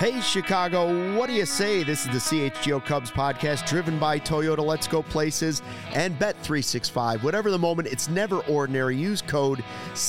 Hey, Chicago, what do you say? This is the CHGO Cubs podcast driven by Toyota. Let's go places and Bet365. Whatever the moment, it's never ordinary. Use code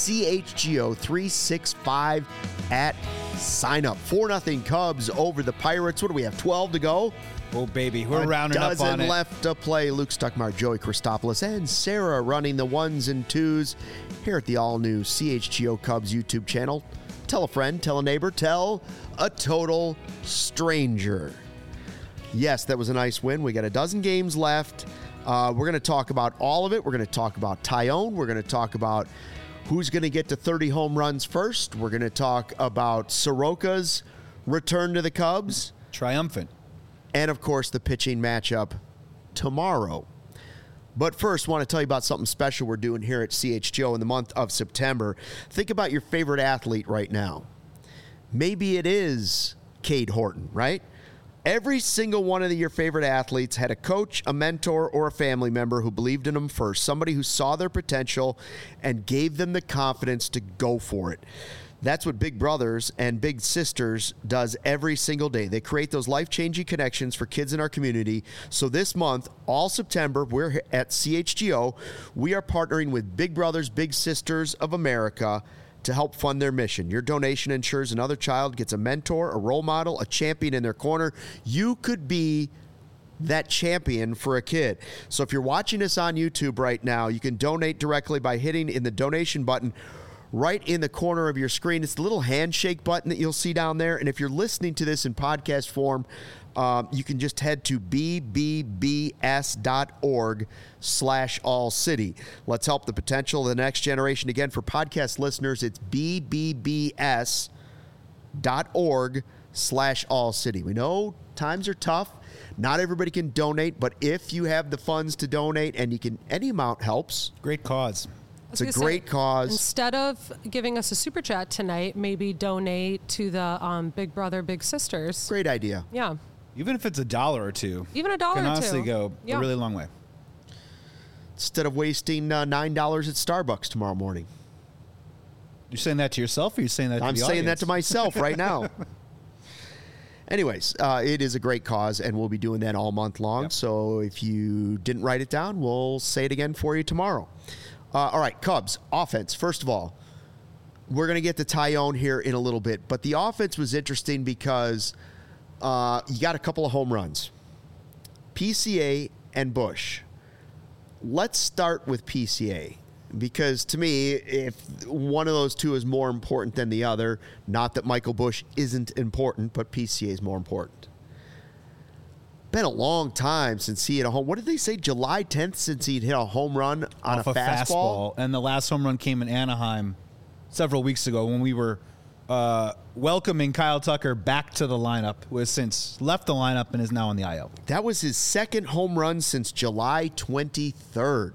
CHGO365 at sign up. 4-0 Cubs over the Pirates. What do we have, 12 to go? Oh, baby, we're rounding up on it. Dozen left to play. Luke Stuckmeyer, Joey Christopoulos, and Sarah running the ones and twos here at the all-new CHGO Cubs YouTube channel. Tell a friend, tell a neighbor, tell a total stranger. Yes, that was a nice win. We got a dozen games left. We're going to talk about all of it. We're going to talk about Tyone. We're going to talk about who's going to get to 30 home runs first. We're going to talk about Soroka's return to the Cubs. Triumphant. And, of course, the pitching matchup tomorrow. But first, I want to tell you about something special we're doing here at CHGO in the month of September. Think about your favorite athlete right now. Maybe it is Cade Horton, right? Every single one of your favorite athletes had a coach, a mentor, or a family member who believed in them first, somebody who saw their potential and gave them the confidence to go for it. That's what Big Brothers and Big Sisters does every single day. They create those life-changing connections for kids in our community. So this month, all September, we're at CHGO. We are partnering with Big Brothers, Big Sisters of America to help fund their mission. Your donation ensures another child gets a mentor, a role model, a champion in their corner. You could be that champion for a kid. So if you're watching us on YouTube right now, you can donate directly by hitting in the donation button right in the corner of your screen. It's the little handshake button that you'll see down there. And if you're listening to this in podcast form, you can just head to bbbs.org/all-city. Let's help the potential of the next generation. Again, for podcast listeners, it's bbbs.org/all-city. We know times are tough. Not everybody can donate, but if you have the funds to donate, and you can, any amount helps. Great cause. It's a great cause. Instead of giving us a super chat tonight, maybe donate to the Big Brother, Big Sisters. Great idea. Yeah. Even if it's $1 or $2. Even $1 or $2. Can honestly go a really long way. Instead of wasting $9 at Starbucks tomorrow morning. You're saying that to yourself, or you're saying that to the audience? I'm saying that to myself right now. Anyways, it is a great cause, and we'll be doing that all month long. Yep. So if you didn't write it down, we'll say it again for you tomorrow. All right, Cubs, offense. First of all, we're going to get to Tyone here in a little bit, but the offense was interesting because you got a couple of home runs. PCA and Bush. Let's start with PCA, because to me, if one of those two is more important than the other, not that Michael Bush isn't important, but PCA is more important. Been a long time since he hit a home. What did they say? July 10th since he'd hit a home run on a fastball? And the last home run came in Anaheim several weeks ago when we were welcoming Kyle Tucker back to the lineup, who has since left the lineup and is now on the IL. That was his second home run since July 23rd.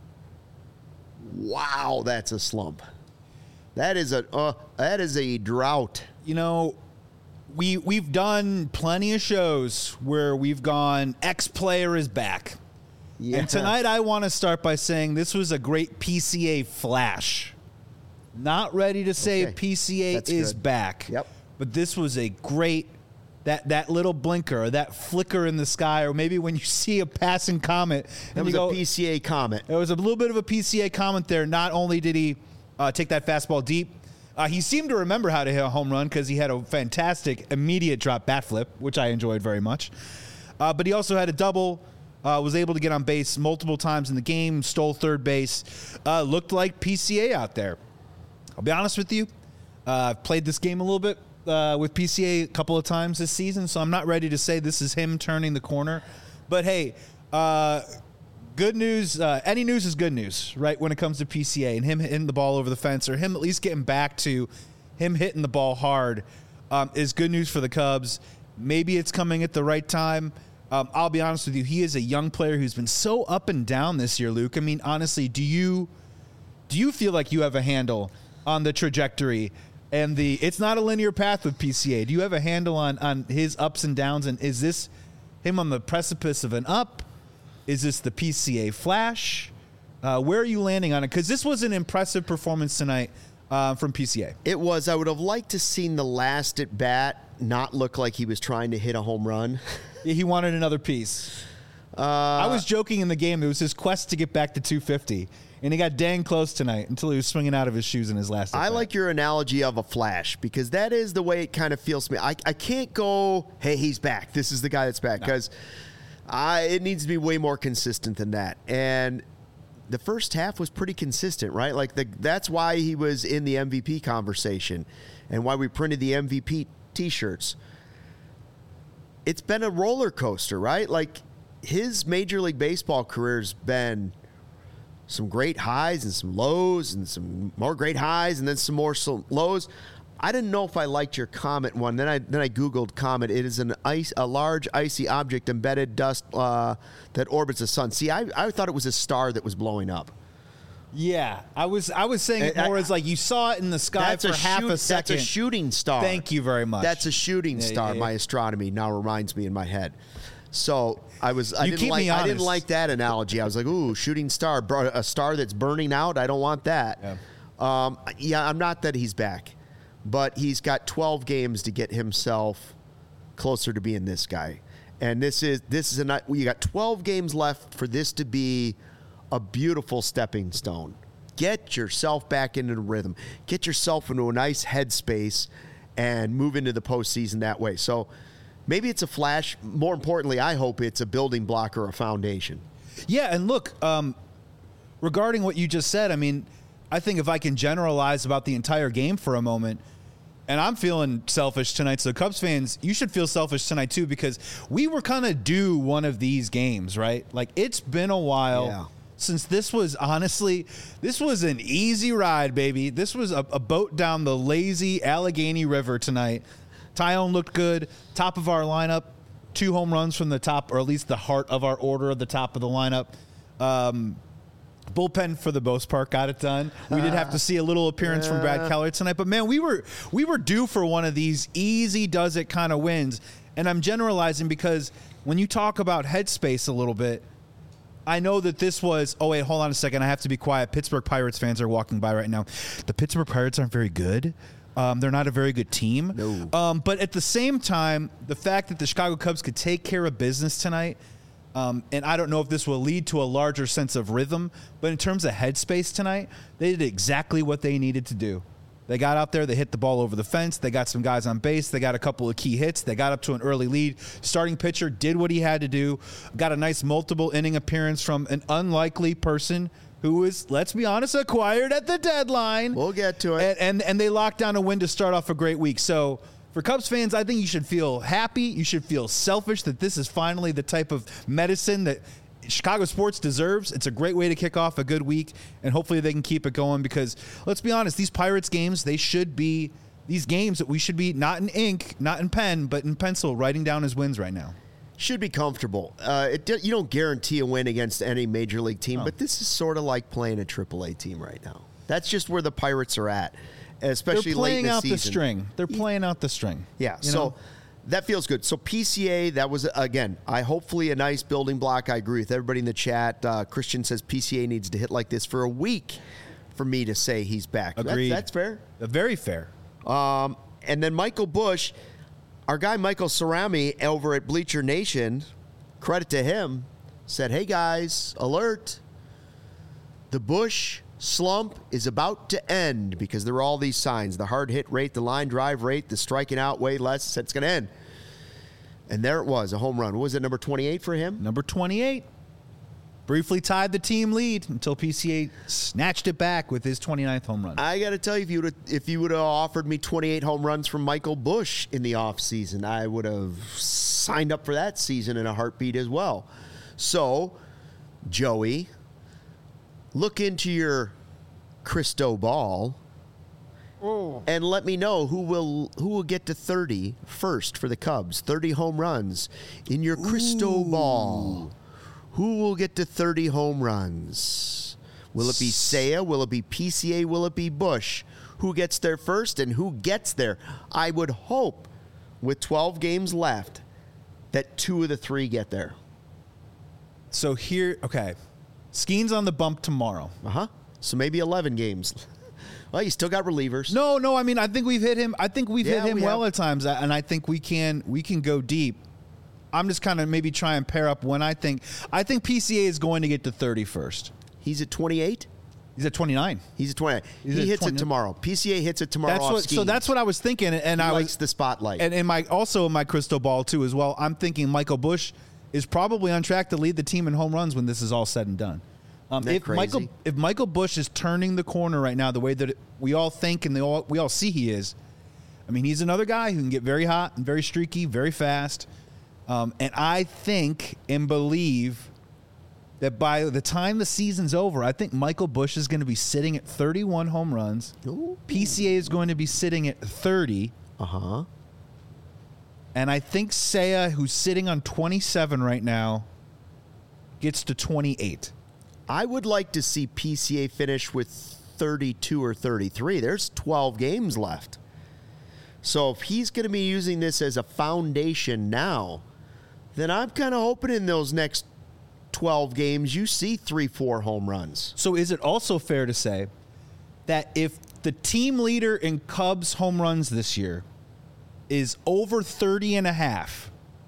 Wow, that's a slump. That is a drought. You know, We've done plenty of shows where we've gone, X player is back. Yeah. And tonight I want to start by saying this was a great PCA flash. Not ready to say PCA is back. Yep. But this was a great, that little blinker, or that flicker in the sky, or maybe when you see a passing comet. That was a PCA comet. There was a little bit of a PCA comet there. Not only did he take that fastball deep, he seemed to remember how to hit a home run because he had a fantastic immediate drop bat flip, which I enjoyed very much. But he also had a double, was able to get on base multiple times in the game, stole third base, looked like PCA out there. I'll be honest with you. I've played this game a little bit with PCA a couple of times this season, so I'm not ready to say this is him turning the corner. But, hey, good news, any news is good news, right, when it comes to PCA and him hitting the ball over the fence, or him at least getting back to him hitting the ball hard is good news for the Cubs. Maybe it's coming at the right time. I'll be honest with you, he is a young player who's been so up and down this year, Luke. I mean, honestly, do you feel like you have a handle on the trajectory and it's not a linear path with PCA? Do you have a handle on his ups and downs, and is this him on the precipice of an up? Is this the PCA flash? Where are you landing on it? Because this was an impressive performance tonight from PCA. It was. I would have liked to seen the last at bat not look like he was trying to hit a home run. He wanted another piece. I was joking in the game. It was his quest to get back to 250, and he got dang close tonight until he was swinging out of his shoes in his last at-bat. I like your analogy of a flash because that is the way it kind of feels to me. I can't go, hey, he's back. This is the guy that's back because it needs to be way more consistent than that. And the first half was pretty consistent, right? Like that's why he was in the MVP conversation and why we printed the MVP T-shirts. It's been a roller coaster, right? Like his Major League Baseball career's been some great highs and some lows and some more great highs and then some more lows. I didn't know if I liked your comet one. Then I Googled comet. It is a large icy object embedded dust that orbits the sun. See, I thought it was a star that was blowing up. Yeah, I was saying it more as like you saw it in the sky for half a second. That's a shooting star. Thank you very much. That's a shooting star. My astronomy now reminds me in my head. So I didn't like that analogy. I was like, ooh, shooting star, a star that's burning out. I don't want that. Yeah. I'm not that he's back, but he's got 12 games to get himself closer to being this guy. And you got 12 games left for this to be a beautiful stepping stone. Get yourself back into the rhythm. Get yourself into a nice headspace and move into the postseason that way. So maybe it's a flash. More importantly, I hope it's a building block or a foundation. Yeah, and look, regarding what you just said, I mean, I think if I can generalize about the entire game for a moment, and I'm feeling selfish tonight, so Cubs fans, you should feel selfish tonight too because we were kind of due one of these games, right? Like, it's been a while since this was an easy ride, baby. This was a boat down the lazy Allegheny River tonight. Tyone looked good. Top of our lineup. 2 home runs from the top, or at least the heart of our order at the top of the lineup. Bullpen, for the most part, got it done. We did have to see a little appearance from Brad Keller tonight. But, man, we were due for one of these easy does it kind of wins. And I'm generalizing because when you talk about headspace a little bit, I know that this was, oh, wait, hold on a second. I have to be quiet. Pittsburgh Pirates fans are walking by right now. The Pittsburgh Pirates aren't very good. They're not a very good team. No. But at the same time, the fact that the Chicago Cubs could take care of business tonight, and I don't know if this will lead to a larger sense of rhythm, but in terms of headspace tonight, they did exactly what they needed to do. They got out there, they hit the ball over the fence, they got some guys on base, they got a couple of key hits, they got up to an early lead. Starting pitcher did what he had to do, got a nice multiple inning appearance from an unlikely person who was, let's be honest, acquired at the deadline. We'll get to it. And they locked down a win to start off a great week. So for Cubs fans, I think you should feel happy. You should feel selfish that this is finally the type of medicine that Chicago sports deserves. It's a great way to kick off a good week, and hopefully they can keep it going because, let's be honest, these Pirates games, they should be these games that we should be not in ink, not in pen, but in pencil, writing down as wins right now. Should be comfortable. You don't guarantee a win against any major league team, but this is sort of like playing a AAA team right now. That's just where the Pirates are at, especially late in the season. They're playing out the string. They're playing out the string. Yeah, so that feels good. So PCA, that was, again, hopefully a nice building block. I agree with everybody in the chat. Christian says PCA needs to hit like this for a week for me to say he's back. Agreed. That's fair. Very fair. And then Michael Busch, our guy Michael Cerami over at Bleacher Nation, credit to him, said, hey guys, alert. The Busch slump is about to end because there are all these signs. The hard hit rate, the line drive rate, the striking out way less. Said it's going to end. And there it was, a home run. What was it, number 28 for him? Number 28. Briefly tied the team lead until PCA snatched it back with his 29th home run. I got to tell you, if you would have offered me 28 home runs from Michael Busch in the offseason, I would have signed up for that season in a heartbeat as well. So, Joey, look into your crystal ball and let me know who will get to 30 first for the Cubs. 30 home runs in your crystal ball. Who will get to 30 home runs? Will it be Seiya? Will it be PCA? Will it be Busch? Who gets there first and who gets there? I would hope, with 12 games left, that 2 of the 3 get there. So here, okay. Skeen's on the bump tomorrow. So maybe 11 games. Well, you still got relievers. No. I mean, I think we've hit him. I think we've hit him we well have. at times, and I think we can go deep. I'm just kind of maybe try and pair up when I think PCA is going to get to 30 first. He's at 28. He's at 29. He's at 29. He's He at hits 20. it tomorrow. PCA hits it tomorrow. So that's what I was thinking, and he I likes was the spotlight. and in my crystal ball too as well. I'm thinking Michael Busch is probably on track to lead the team in home runs when this is all said and done. Isn't that crazy? If Michael Busch is turning the corner right now, the way that we all think and we all see he is, I mean, he's another guy who can get very hot and very streaky, very fast. And I think and believe that by the time the season's over, I think Michael Busch is going to be sitting at 31 home runs. Ooh. PCA is going to be sitting at 30. Uh-huh. And I think Seiya, who's sitting on 27 right now, gets to 28. I would like to see PCA finish with 32 or 33. There's 12 games left. So if he's going to be using this as a foundation now, then I'm kind of hoping in those next 12 games you see 3-4 home runs. So is it also fair to say that if the team leader in Cubs home runs this year is over 30 and a half,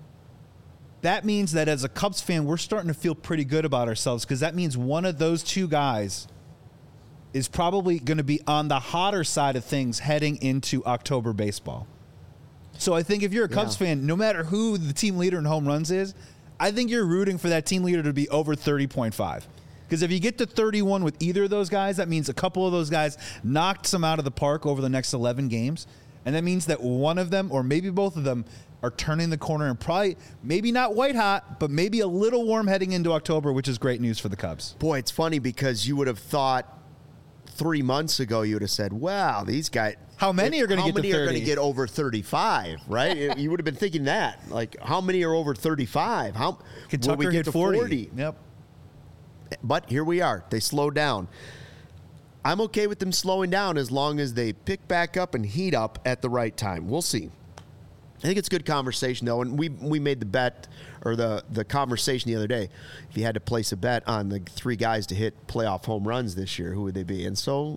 that means that as a Cubs fan, we're starting to feel pretty good about ourselves, because that means one of those two guys is probably going to be on the hotter side of things heading into October baseball. So I think if you're a Cubs fan, no matter who the team leader in home runs is, I think you're rooting for that team leader to be over 30.5. Because if you get to 31 with either of those guys, that means a couple of those guys knocked some out of the park over the next 11 games. And that means that one of them, or maybe both of them, are turning the corner and probably, maybe not white hot, but maybe a little warm heading into October, which is great news for the Cubs. Boy, it's funny because you would have thought 3 months ago, you would have said, wow, these guys. How many are going to get to 30? How many are going to get over 35, right? You would have been thinking that. Like, how many are over 35? How Kentucky will we get hit to 40. Yep. But here we are. They slowed down. I'm okay with them slowing down as long as they pick back up and heat up at the right time. We'll see. I think it's good conversation, though, and we made the bet, or the conversation the other day. If you had to place a bet on the three guys to hit playoff home runs this year, who would they be? And so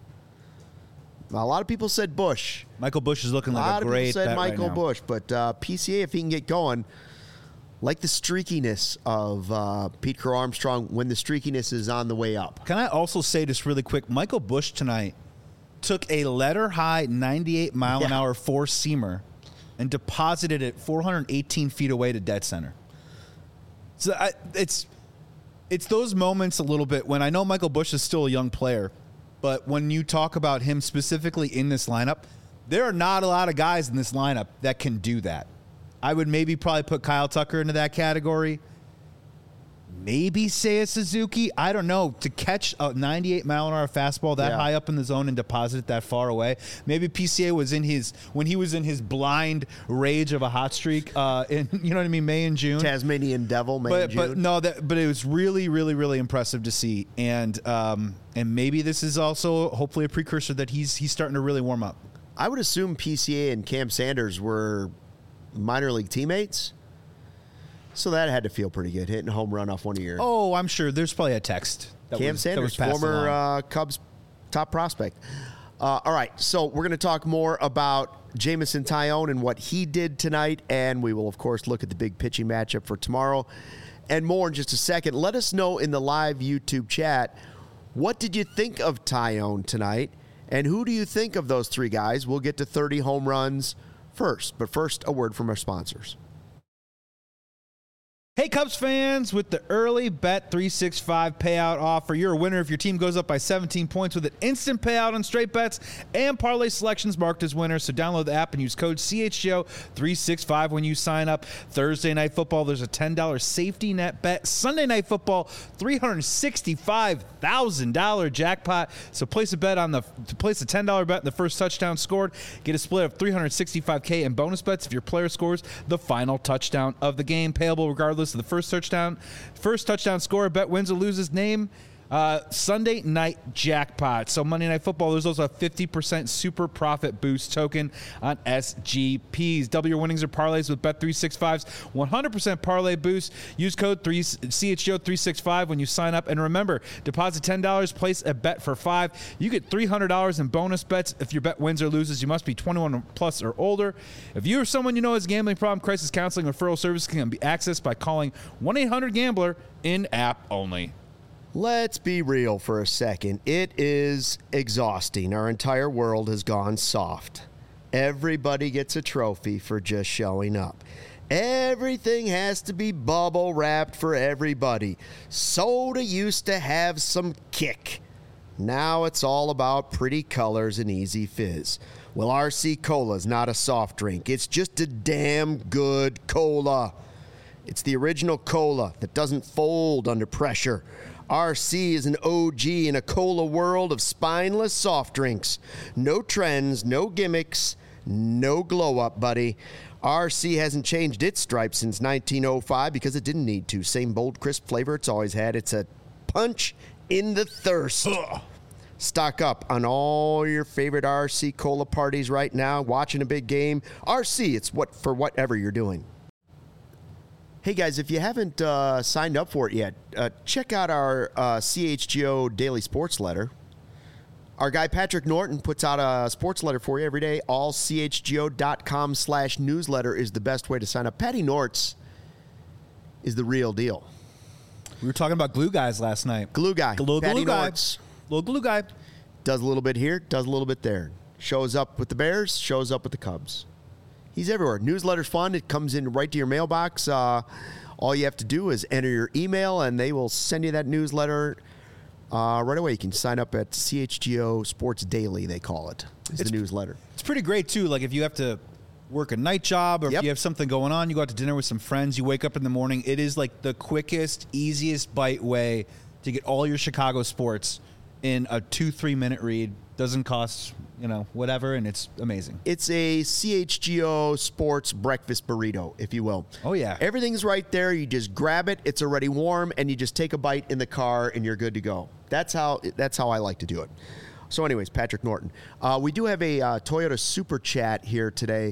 a lot of people said Busch. Michael Busch is looking like a great lot of people said bet right Michael now. Busch, but PCA, if he can get going, like the streakiness of Pete Crow Armstrong when the streakiness is on the way up. Can I also say this really quick? Michael Busch tonight took a letter-high 98-mile-an-hour four-seamer and deposited it 418 feet away to dead center. So it's those moments a little bit when I know Michael Busch is still a young player, but when you talk about him specifically in this lineup, there are not a lot of guys in this lineup that can do that. I would probably put Kyle Tucker into that category. Maybe Seiya Suzuki. I don't know. To catch a 98-mile-an-hour fastball that high up in the zone and deposit it that far away. Maybe PCA was when he was in his blind rage of a hot streak in, you know what I mean, May and June. Tasmanian Devil, May and June. But it was really, really, really impressive to see. And maybe this is also hopefully a precursor that he's starting to really warm up. I would assume PCA and Cam Sanders were minor league teammates. So that had to feel pretty good, hitting a home run off one of your... Oh, I'm sure. There's probably a text. Cam Sanders, former Cubs top prospect. All right, so we're going to talk more about Jameson Taillon and what he did tonight, and we will, of course, look at the big pitching matchup for tomorrow and more in just a second. Let us know in the live YouTube chat, what did you think of Taillon tonight, and who do you think of those three guys? We'll get to 30 home runs first, but first, a word from our sponsors. Hey, Cubs fans, with the early Bet 365 payout offer, you're a winner if your team goes up by 17 points with an instant payout on straight bets and parlay selections marked as winners. So download the app and use code CHGO365 when you sign up. Thursday Night Football, there's a $10 safety net bet. Sunday Night Football, $365,000 jackpot. So place a $10 bet on the first touchdown scored. Get a split of $365K in bonus bets if your player scores the final touchdown of the game. Payable regardless of the first touchdown score. Bet wins or loses. Name Sunday night jackpot. So Monday Night Football, there's also a 50% super profit boost token on SGPs. Double your winnings or parlays with Bet365's 100% parlay boost. Use code CHGO365 when you sign up. And remember, deposit $10, place a bet for $5. You get $300 in bonus bets if your bet wins or loses. You must be 21 plus or older. If you or someone you know has a gambling problem, crisis counseling referral service can be accessed by calling 1-800-GAMBLER in-app only. Let's be real for a second. It is exhausting. Our entire world has gone soft. Everybody gets a trophy for just showing up. Everything has to be bubble wrapped for everybody. Soda used to have some kick. Now it's all about pretty colors and easy fizz. Well, RC Cola's not a soft drink. It's just a damn good cola. It's the original cola that doesn't fold under pressure. RC is an OG in a cola world of spineless soft drinks. No trends, no gimmicks, no glow up, buddy. RC hasn't changed its stripes since 1905 because it didn't need to. Same bold, crisp flavor it's always had. It's a punch in the thirst. Ugh. Stock up on all your favorite RC Cola parties right now. Watching a big game. RC, it's for whatever you're doing. Hey guys, if you haven't signed up for it yet, check out our CHGO Daily Sports Letter. Our guy Patrick Norton puts out a sports letter for you every day. allchgo.com/newsletter is the best way to sign up. Patty Nortz is the real deal. We were talking about glue guys last night. Glue guy. Patty guy. Nortz. Little glue guy. Does a little bit here, does a little bit there. Shows up with the Bears, shows up with the Cubs. He's everywhere. Newsletter's fun. It comes in right to your mailbox. All you have to do is enter your email, and they will send you that newsletter right away. You can sign up at CHGO Sports Daily, they call it. It's the newsletter. It's pretty great, too. Like, if you have to work a night job or if you have something going on, you go out to dinner with some friends, you wake up in the morning. It is, like, the quickest, easiest bite way to get all your Chicago sports in a 2-3 minute read. Doesn't cost, whatever, and it's amazing. It's a CHGO Sports breakfast burrito, if you will. Oh, yeah. Everything's right there. You just grab it. It's already warm, and you just take a bite in the car, and you're good to go. That's how I like to do it. So anyways, Patrick Norton. We do have a Toyota Super Chat here today.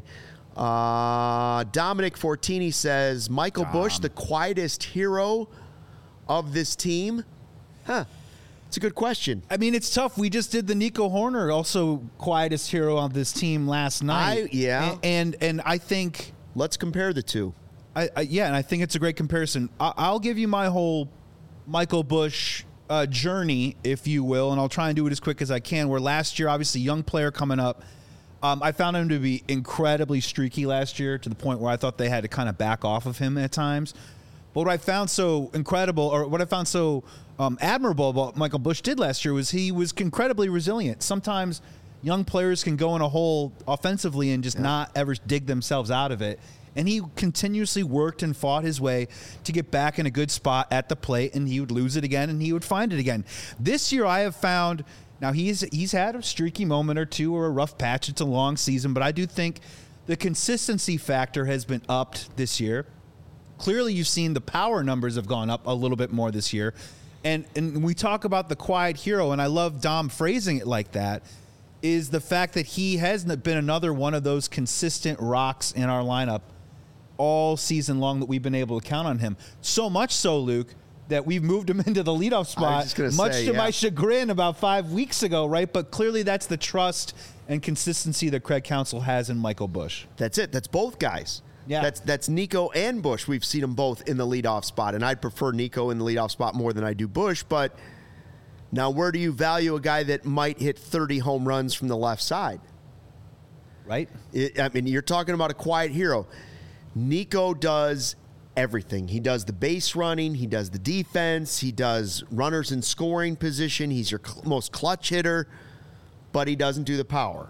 Dominic Fortini says, Michael Bush, the quietest hero of this team? Huh. It's a good question. I mean, it's tough. We just did the Nico Horner, also quietest hero on this team last night. And I think... Let's compare the two. And I think it's a great comparison. I'll give you my whole Michael Bush journey, if you will, and I'll try and do it as quick as I can, where last year, obviously, young player coming up, I found him to be incredibly streaky last year to the point where I thought they had to kind of back off of him at times. But what I found so incredible, or what I found so admirable about Michael Bush did last year was he was incredibly resilient. Sometimes young players can go in a hole offensively and just not ever dig themselves out of it. And he continuously worked and fought his way to get back in a good spot at the plate, and he would lose it again, and he would find it again. This year I have found, now he's had a streaky moment or two or a rough patch. It's a long season, but I do think the consistency factor has been upped this year. Clearly, you've seen the power numbers have gone up a little bit more this year. And we talk about the quiet hero, and I love Dom phrasing it like that, is the fact that he hasn't been another one of those consistent rocks in our lineup all season long that we've been able to count on him. So much so, Luke, that we've moved him into the leadoff spot, much to my chagrin about 5 weeks ago, right? But clearly that's the trust and consistency that Craig Counsell has in Michael Bush. That's it. That's both guys. Yeah. That's Nico and Bush. We've seen them both in the leadoff spot, and I'd prefer Nico in the leadoff spot more than I do Bush. But now, where do you value a guy that might hit 30 home runs from the left side? Right. You're talking about a quiet hero. Nico does everything. He does the base running. He does the defense. He does runners in scoring position. He's your most clutch hitter, but he doesn't do the power.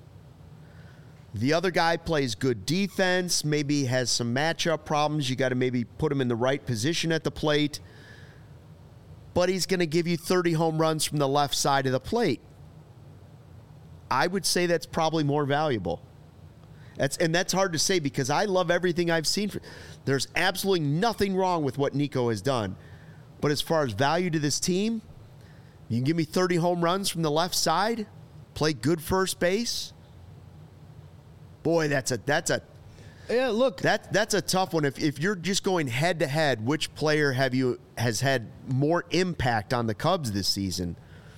The other guy plays good defense, maybe has some matchup problems. You got to maybe put him in the right position at the plate. But he's going to give you 30 home runs from the left side of the plate. I would say that's probably more valuable. That's hard to say because I love everything I've seen. There's absolutely nothing wrong with what Nico has done. But as far as value to this team, You can give me 30 home runs from the left side, play good first base. Boy, that's a Yeah, look. that's a tough one. If you're just going head to head, which player has had more impact on the Cubs this season?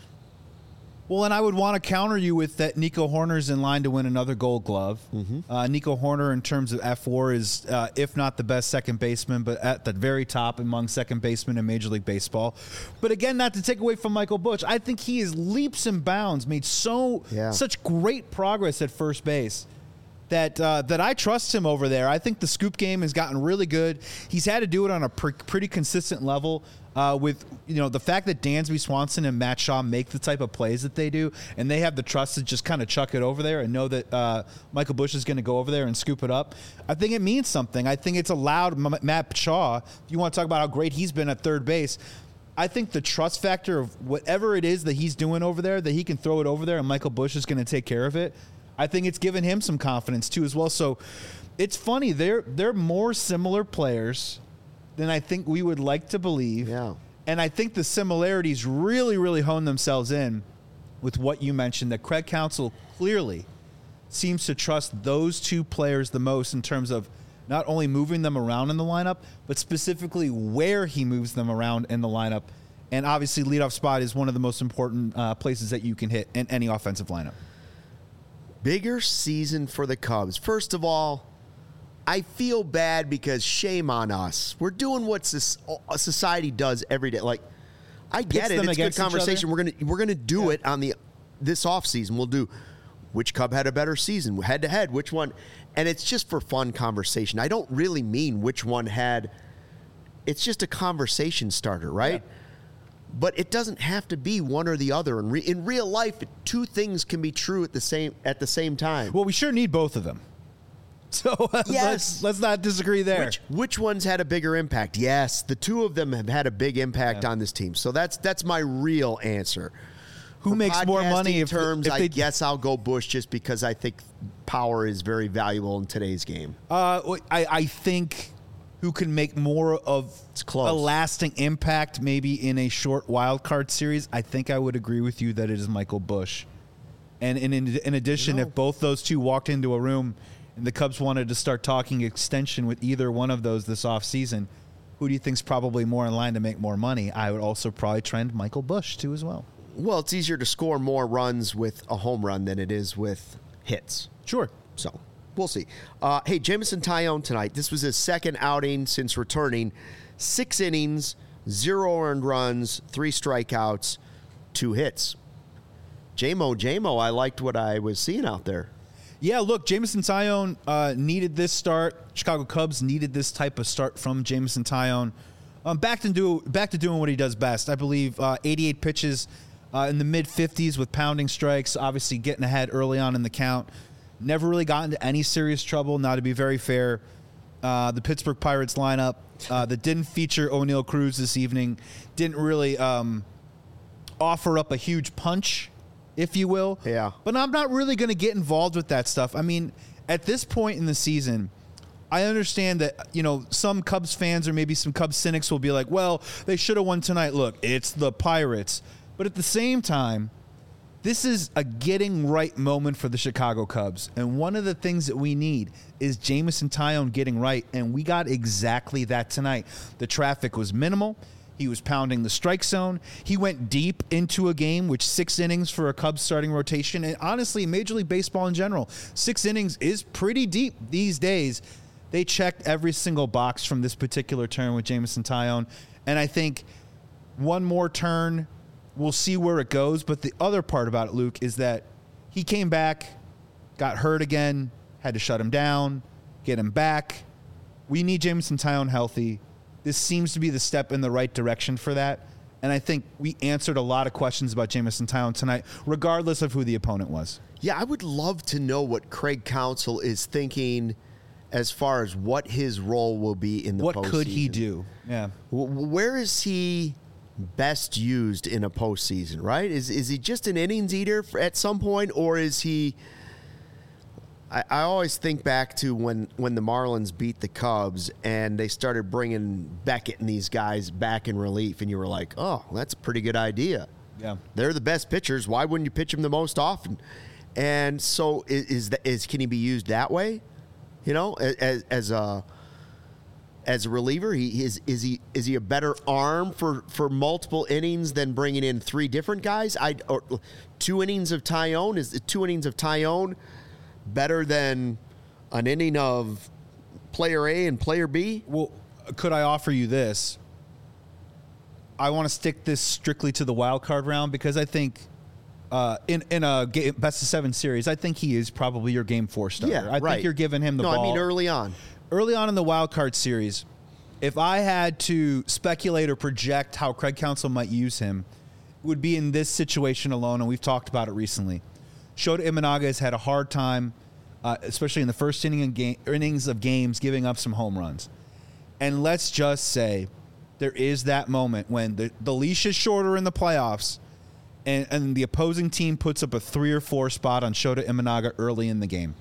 Well, and I would want to counter you with that Nico Horner's in line to win another Gold Glove. Nico Horner, in terms of F4, is, if not the best second baseman, but at the very top among second basemen in Major League Baseball. But again, not to take away from Michael Busch, I think he is leaps and bounds, made such great progress at first base. That I trust him over there. I think the scoop game has gotten really good. He's had to do it on a pretty consistent level with the fact that Dansby Swanson and Matt Shaw make the type of plays that they do, and they have the trust to just kind of chuck it over there and know that Michael Busch is going to go over there and scoop it up. I think it means something. I think it's allowed Matt Shaw, if you want to talk about how great he's been at third base, I think the trust factor of whatever it is that he's doing over there, that he can throw it over there and Michael Busch is going to take care of it. I think it's given him some confidence too as well. So it's funny, they're more similar players than I think we would like to believe. Yeah. And I think the similarities really, really hone themselves in with what you mentioned, that Craig Counsell clearly seems to trust those two players the most in terms of not only moving them around in the lineup, but specifically where he moves them around in the lineup. And obviously leadoff spot is one of the most important places that you can hit in any offensive lineup. Bigger season for the Cubs. First of all, I feel bad because shame on us. We're doing what society does every day. Like, I get it. It's good conversation. We're gonna do it on this offseason. We'll do which Cub had a better season, head to head, which one, and it's just for fun conversation. I don't really mean which one had. It's just a conversation starter, right? Yeah. But it doesn't have to be one or the other. In real life, two things can be true at the same time. Well, we sure need both of them. So yes. let's not disagree there. Which one's had a bigger impact? Yes, the two of them have had a big impact on this team. So that's my real answer. Who makes more money? I guess I'll go Busch just because I think power is very valuable in today's game. I think who can make more of a lasting impact maybe in a short wild card series, I think I would agree with you that it is Michael Busch. And in addition, if both those two walked into a room and the Cubs wanted to start talking extension with either one of those this offseason, who do you think's probably more in line to make more money? I would also probably trend Michael Busch too as well. Well, it's easier to score more runs with a home run than it is with hits. Sure. So we'll see. Hey, Jameson Taillon tonight. This was his second outing since returning. 6 innings, 0 earned runs, 3 strikeouts, 2 hits. J-Mo, I liked what I was seeing out there. Yeah, look, Jameson Taillon needed this start. Chicago Cubs needed this type of start from Jameson Taillon. Back to doing what he does best. I believe 88 pitches in the mid-50s with pounding strikes, obviously getting ahead early on in the count. Never really got into any serious trouble, now to be very fair. The Pittsburgh Pirates lineup that didn't feature O'Neal Cruz this evening didn't really offer up a huge punch, if you will. Yeah. But I'm not really going to get involved with that stuff. I mean, at this point in the season, I understand that, some Cubs fans or maybe some Cubs cynics will be like, well, they should have won tonight. Look, it's the Pirates. But at the same time, this is a getting right moment for the Chicago Cubs. And one of the things that we need is Jameson Taillon getting right. And we got exactly that tonight. The traffic was minimal. He was pounding the strike zone. He went deep into a game, which 6 innings for a Cubs starting rotation. And honestly, Major League Baseball in general, 6 innings is pretty deep these days. They checked every single box from this particular turn with Jameson Taillon. And I think one more turn, we'll see where it goes. But the other part about it, Luke, is that he came back, got hurt again, had to shut him down, get him back. We need Jameson Taillon healthy. This seems to be the step in the right direction for that. And I think we answered a lot of questions about Jameson Taillon tonight, regardless of who the opponent was. Yeah, I would love to know what Craig Counsell is thinking as far as what his role will be in the postseason. What could he do? Yeah. Where is he best used in a postseason, right? Is he just an innings eater at some point, or is he... I always think back to when the Marlins beat the Cubs and they started bringing Beckett and these guys back in relief, and you were like, oh, that's a pretty good idea. Yeah. They're the best pitchers. Why wouldn't you pitch them the most often? And so can he be used that way? You know, as a reliever, is he a better arm for multiple innings than bringing in three different guys? Or 2 innings of Taillon, is 2 innings of Taillon better than an inning of player A and player B? Well, could I offer you this? I want to stick this strictly to the wild card round because I think in a best of 7 series, I think he is probably your game 4 starter. Yeah, I think you're giving him the ball. No, I mean early on. Early on in the wild card series, if I had to speculate or project how Craig Counsell might use him, it would be in this situation alone, and we've talked about it recently. Shota Imanaga has had a hard time, especially in the first innings of games, giving up some home runs. And let's just say there is that moment when the leash is shorter in the playoffs, and the opposing team puts up a 3 or 4 spot on Shota Imanaga early in the game.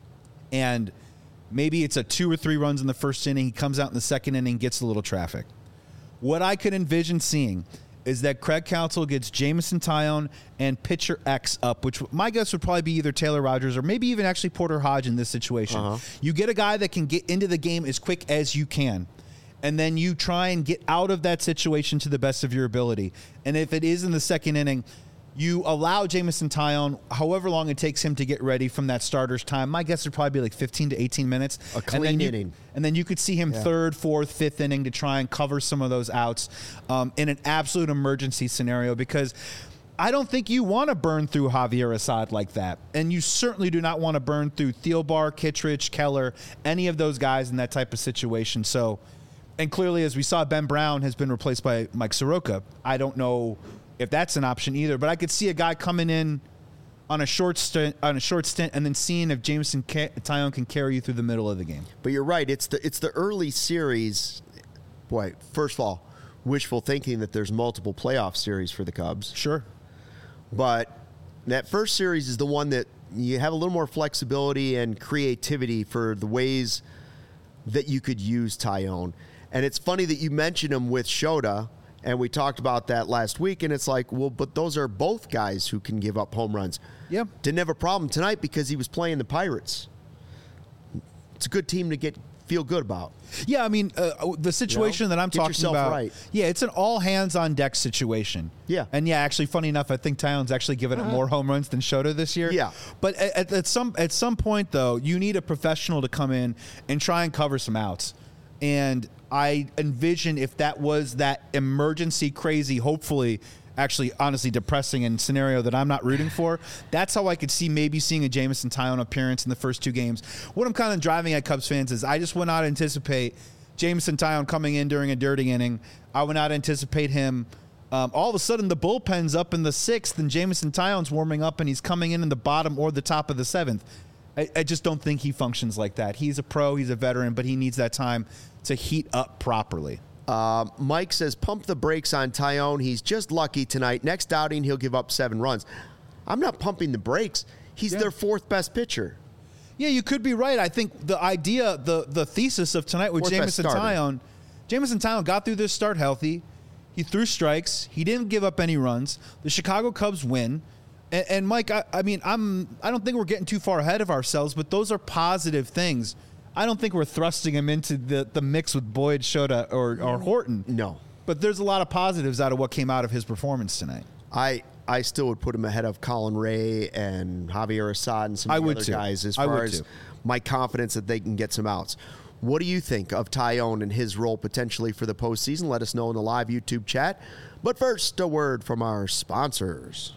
And maybe it's a 2 or 3 runs in the first inning. He comes out in the second inning, gets a little traffic. What I could envision seeing is that Craig Counsell gets Jameson Taillon and pitcher X up, which my guess would probably be either Taylor Rogers or maybe even actually Porter Hodge in this situation. Uh-huh. You get a guy that can get into the game as quick as you can, and then you try and get out of that situation to the best of your ability. And if it is in the second inning, you allow Jameson Taillon however long it takes him to get ready from that starter's time. My guess would probably be like 15 to 18 minutes. A clean inning. And then you could see him third, fourth, fifth inning to try and cover some of those outs in an absolute emergency scenario, because I don't think you want to burn through Javier Assad like that. And you certainly do not want to burn through Thielbar, Kittredge, Keller, any of those guys in that type of situation. So, and clearly, as we saw, Ben Brown has been replaced by Mike Soroka. I don't know if that's an option either, but I could see a guy coming in on a short stint, and then seeing if Jameson Taillon can carry you through the middle of the game. But you're right. It's the early series. Boy, first of all, wishful thinking that there's multiple playoff series for the Cubs. Sure. But that first series is the one that you have a little more flexibility and creativity for the ways that you could use Taillon. And it's funny that you mentioned him with Shota, and we talked about that last week, and it's like, well, but those are both guys who can give up home runs. Yep. Didn't have a problem tonight because he was playing the Pirates. It's a good team to feel good about. Yeah, I mean, the situation that I'm talking about, right. Yeah, it's an all-hands-on-deck situation. Yeah. And, yeah, actually, funny enough, I think Taillon's actually given up more home runs than Shota this year. Yeah. But at some point, though, you need a professional to come in and try and cover some outs. And I envision if that was that emergency, crazy, hopefully, actually, honestly, depressing and scenario that I'm not rooting for, that's how I could see maybe seeing a Jameson Taillon appearance in the first 2 games. What I'm kind of driving at Cubs fans is I just would not anticipate Jameson Taillon coming in during a dirty inning. I would not anticipate him. All of a sudden, the bullpen's up in the 6th, and Jameson Taillon's warming up, and he's coming in the bottom or the top of the 7th. I just don't think he functions like that. He's a pro, he's a veteran, but he needs that time to heat up properly. Mike says, pump the brakes on Taillon. He's just lucky tonight. Next outing, he'll give up 7 runs. I'm not pumping the brakes. He's their 4th best pitcher. Yeah, you could be right. I think the idea, the thesis of tonight with Jameson Taillon got through this start healthy. He threw strikes. He didn't give up any runs. The Chicago Cubs win. And Mike, I don't think we're getting too far ahead of ourselves, but those are positive things. I don't think we're thrusting him into the mix with Boyd, Shota, or Horton. No. But there's a lot of positives out of what came out of his performance tonight. I still would put him ahead of Colin Ray and Javier Assad and some of the other guys as far as my confidence that they can get some outs. What do you think of Taillon and his role potentially for the postseason? Let us know in the live YouTube chat. But first, a word from our sponsors.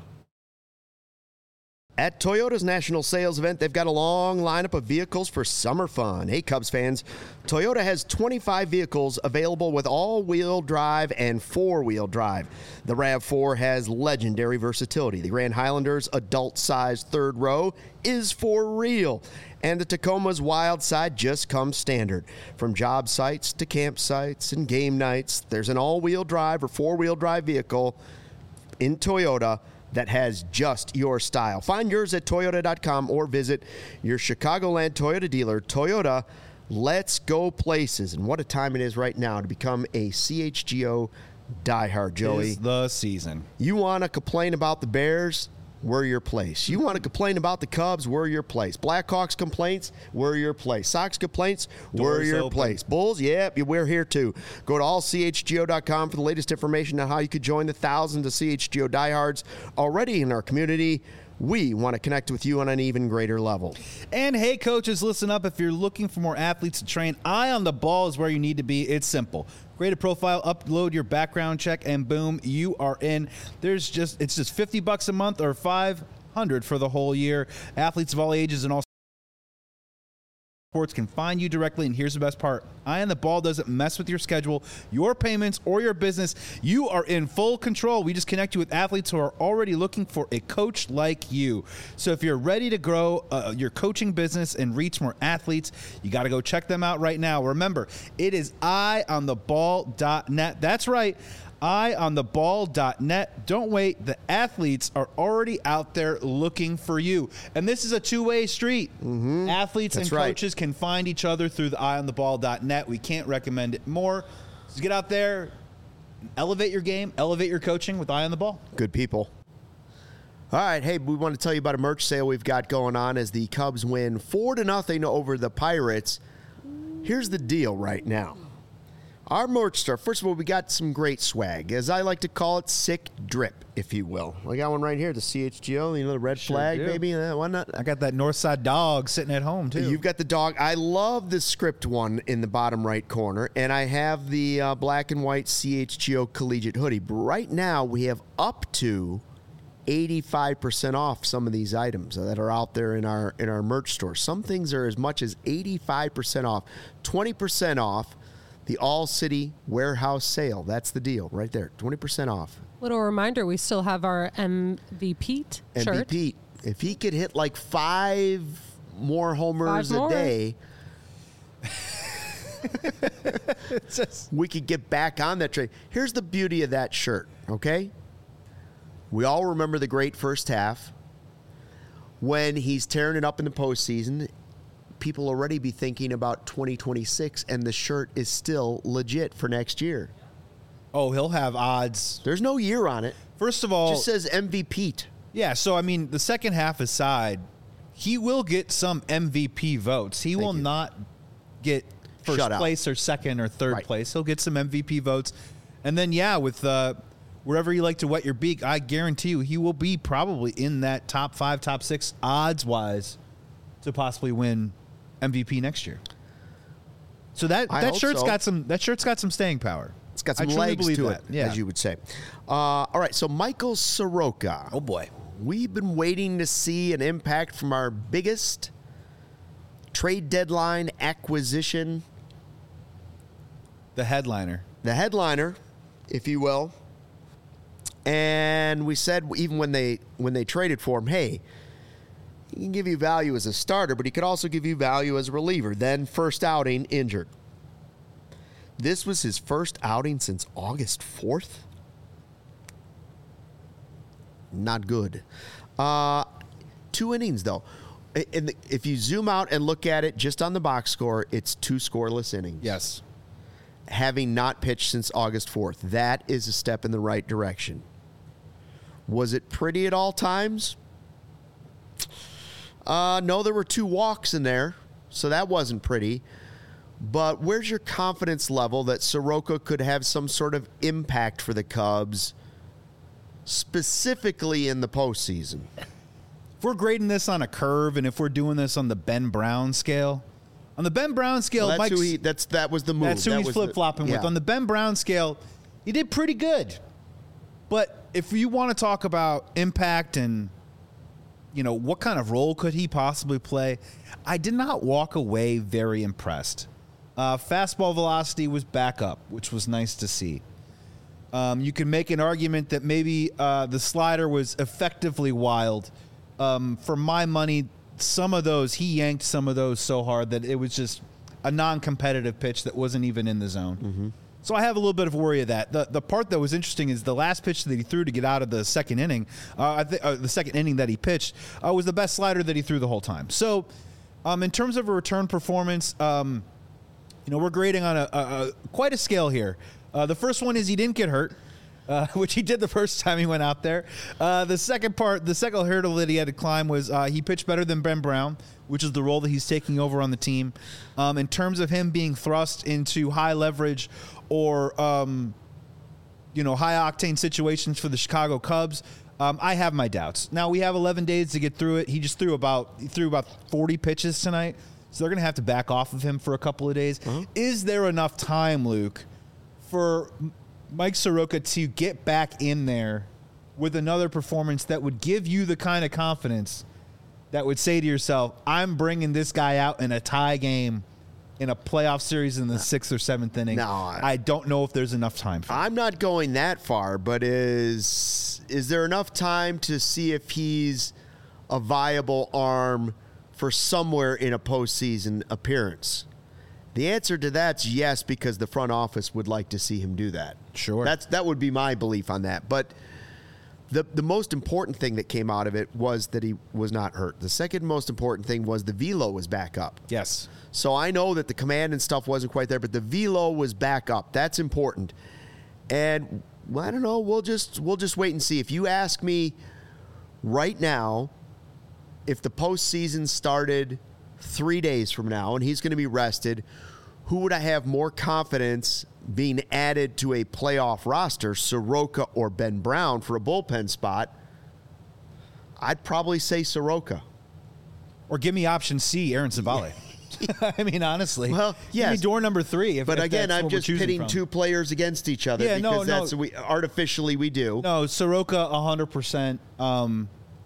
At Toyota's national sales event, they've got a long lineup of vehicles for summer fun. Hey, Cubs fans, Toyota has 25 vehicles available with all-wheel drive and four-wheel drive. The RAV4 has legendary versatility. The Grand Highlander's adult-sized third row is for real. And the Tacoma's wild side just comes standard. From job sites to campsites and game nights, there's an all-wheel drive or four-wheel drive vehicle in Toyota that has just your style. Find yours at Toyota.com or visit your Chicagoland Toyota dealer. Toyota, let's go places. And what a time it is right now to become a CHGO Die Hard, Joey. Is the season. You want to complain about the Bears? We're your place. You want to complain about the Cubs? We're your place. Blackhawks complaints? We're your place. Sox complaints? We're Doors your open. place. Bulls? Yep, we're here too. Go to allchgo.com for the latest information on how you could join the thousands of CHGO diehards already in our community. We want to connect with you on an even greater level. And hey, coaches, listen up. If you're looking for more athletes to train, Eye on the Ball is where you need to be. It's simple. Create a profile, upload your background check, and boom, you are in. It's just $50 a month or $500 for the whole year. Athletes of all ages and all sports can find you directly, and here's the best part. Eye on the Ball doesn't mess with your schedule, your payments, or your business. You are in full control. We just connect you with athletes who are already looking for a coach like you. So if you're ready to grow your coaching business and reach more athletes, you got to go check them out right now. Remember, it is eyeontheball.net. That's right. eyeontheball.net. Don't wait. The athletes are already out there looking for you. And this is a two-way street. Athletes That's and right. coaches can find each other through the eyeontheball.net. We can't recommend it more. Just get out there, elevate your game, elevate your coaching with Eye on the Ball. Good people. All right, hey, we want to tell you about a merch sale we've got going on as the Cubs win 4-0 over the Pirates. Here's the deal right now. Our merch store, first of all, we got some great swag. As I like to call it, sick drip, if you will. I got one right here, the CHGO, the red flag, do. baby. Why not? I got that Northside dog sitting at home, too. You've got the dog. I love the script one in the bottom right corner, and I have the black and white CHGO collegiate hoodie. But right now, we have up to 85% off some of these items that are out there in our merch store. Some things are as much as 85% off, 20% off. The All-City Warehouse Sale. That's the deal right there. 20% off. Little reminder, we still have our MVP shirt. MVP. If he could hit like 5 more homers 5 more. a day, we could get back on that train. Here's the beauty of that shirt, okay? We all remember the great first half. When he's tearing it up in the postseason, people already be thinking about 2026, and the shirt is still legit for next year. Oh, he'll have odds. There's no year on it. First of all, It just says MVP. yeah, so, I mean, the second half aside, he will get some MVP votes. He will you. not get first Shut out. place or second or third Right. place. He'll get some MVP votes. And then, yeah, with wherever you like to wet your beak, I guarantee you he will be probably in that top 5, top 6 odds-wise to possibly win MVP next year. So I that hope shirt's so. got some staying power. It's got I some truly legs believe to that. it, Yeah. as you would say. All right, so Michael Soroka. Oh boy. We've been waiting to see an impact from our biggest trade deadline acquisition, The headliner. the headliner, if you will. And we said even when they traded for him, hey, he can give you value as a starter, but he could also give you value as a reliever. Then first outing, injured. This was his first outing since August 4th. Not good. 2 innings, though. And if you zoom out and look at it just on the box score, it's 2 scoreless innings. Yes. Having not pitched since August 4th. That is a step in the right direction. Was it pretty at all times? No, there were 2 walks in there, so that wasn't pretty. But where's your confidence level that Soroka could have some sort of impact for the Cubs, specifically in the postseason? If we're grading this on a curve, and if we're doing this on the Ben Brown scale, on the Ben Brown scale, Well, Mike's, that was the move. that's who That he's was the- flip flopping with. yeah. On the Ben Brown scale, he did pretty good. But if you want to talk about impact and what kind of role could he possibly play, I did not walk away very impressed. Fastball velocity was back up, which was nice to see. You can make an argument that maybe the slider was effectively wild. For my money, he yanked some of those so hard that it was just a non-competitive pitch that wasn't even in the zone. Mm-hmm. So I have a little bit of worry of that. The part that was interesting is the last pitch that he threw to get out of the second inning. The second inning that he pitched was the best slider that he threw the whole time. So, in terms of a return performance, we're grading on quite a scale here. The first one is he didn't get hurt. which he did the first time he went out there. The second hurdle that he had to climb was he pitched better than Ben Brown, which is the role that he's taking over on the team. In terms of him being thrust into high leverage or high octane situations for the Chicago Cubs, I have my doubts. Now we have 11 days to get through it. He threw about 40 pitches tonight, so they're going to have to back off of him for a couple of days. Uh-huh. Is there enough time, Luke, for Mike Soroka to get back in there with another performance that would give you the kind of confidence that would say to yourself, I'm bringing this guy out in a tie game in a playoff series in the 6th or 7th inning? No, I don't know if there's enough time for I'm not going that far, but is there enough time to see if he's a viable arm for somewhere in a postseason appearance? The answer to that's yes, because the front office would like to see him do that. Sure. That would be my belief on that. But the most important thing that came out of it was that he was not hurt. The second most important thing was the velo was back up. Yes. So I know that the command and stuff wasn't quite there, but the velo was back up. That's important. And well, I don't know. We'll just wait and see. If you ask me right now, if the postseason started 3 days from now and he's going to be rested, who would I have more confidence being added to a playoff roster, Soroka or Ben Brown for a bullpen spot? I'd probably say Soroka. Or give me option C, Aaron Savale. I mean, honestly. Well, yes. Give me door number 3. But again, I'm just pitting two players against each other because that's artificially we do. No, Soroka 100%. And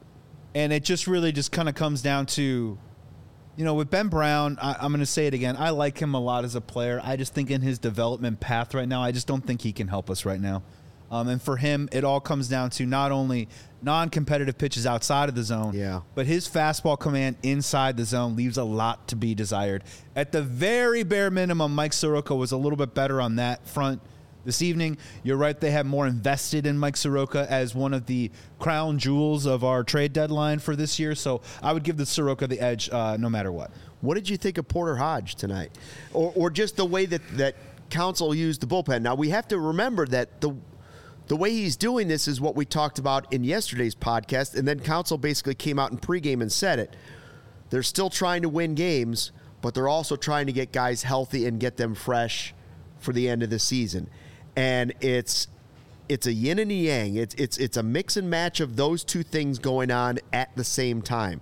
it just really just kind of comes down to, with Ben Brown, I'm going to say it again. I like him a lot as a player. I just think in his development path right now, I just don't think he can help us right now. And for him, it all comes down to not only non-competitive pitches outside of the zone, but his fastball command inside the zone leaves a lot to be desired. At the very bare minimum, Mike Soroka was a little bit better on that front this evening. You're right, they have more invested in Mike Soroka as one of the crown jewels of our trade deadline for this year. So I would give the Soroka the edge no matter what. What did you think of Porter Hodge tonight? Or just the way that Counsell used the bullpen? Now, we have to remember that the way he's doing this is what we talked about in yesterday's podcast, and then Counsell basically came out in pregame and said it. They're still trying to win games, but they're also trying to get guys healthy and get them fresh for the end of the season. And it's a yin and a yang. It's a mix and match of those two things going on at the same time.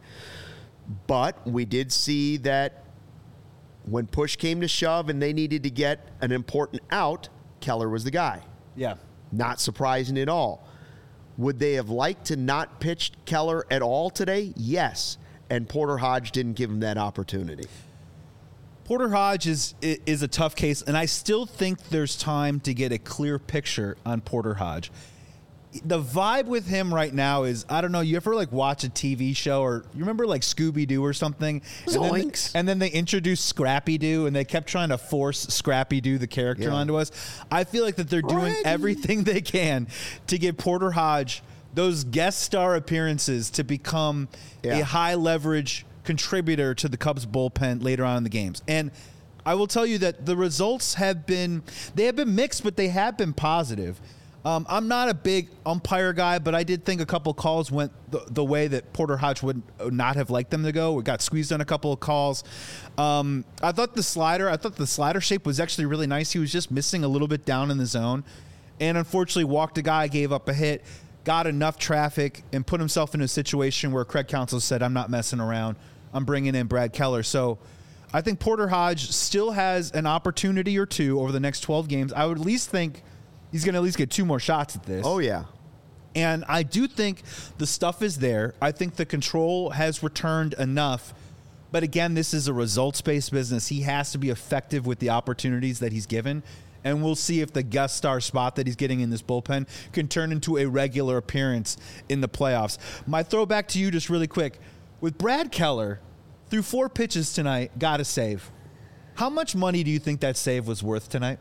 But we did see that when push came to shove and they needed to get an important out, Keller was the guy. Yeah. Not surprising at all. Would they have liked to not pitch Keller at all today? Yes. And Porter Hodge didn't give him that opportunity. Porter Hodge is a tough case, and I still think there's time to get a clear picture on Porter Hodge. The vibe with him right now is, I don't know, you ever watch a TV show, or you remember Scooby-Doo or something? Zoinks. And then they introduced Scrappy-Doo, and they kept trying to force Scrappy-Doo, the character, onto us. I feel like that they're doing everything they can to get Porter Hodge those guest star appearances to become a high-leverage contributor to the Cubs bullpen later on in the games. And I will tell you that the results have been mixed, but they have been positive. I'm not a big umpire guy, but I did think a couple calls went the way that Porter Hodge would not have liked them to go. We got squeezed on a couple of calls. I thought the slider shape was actually really nice. He was just missing a little bit down in the zone, and unfortunately walked a guy, gave up a hit, got enough traffic, and put himself in a situation where Craig Counsell said, I'm not messing around. I'm bringing in Brad Keller. So I think Porter Hodge still has an opportunity or two over the next 12 games. I would at least think he's going to at least get 2 more shots at this. Oh, yeah. And I do think the stuff is there. I think the control has returned enough. But again, this is a results-based business. He has to be effective with the opportunities that he's given. And we'll see if the guest star spot that he's getting in this bullpen can turn into a regular appearance in the playoffs. My throwback to you just really quick. With Brad Keller, through 4 pitches tonight, got a save. How much money do you think that save was worth tonight?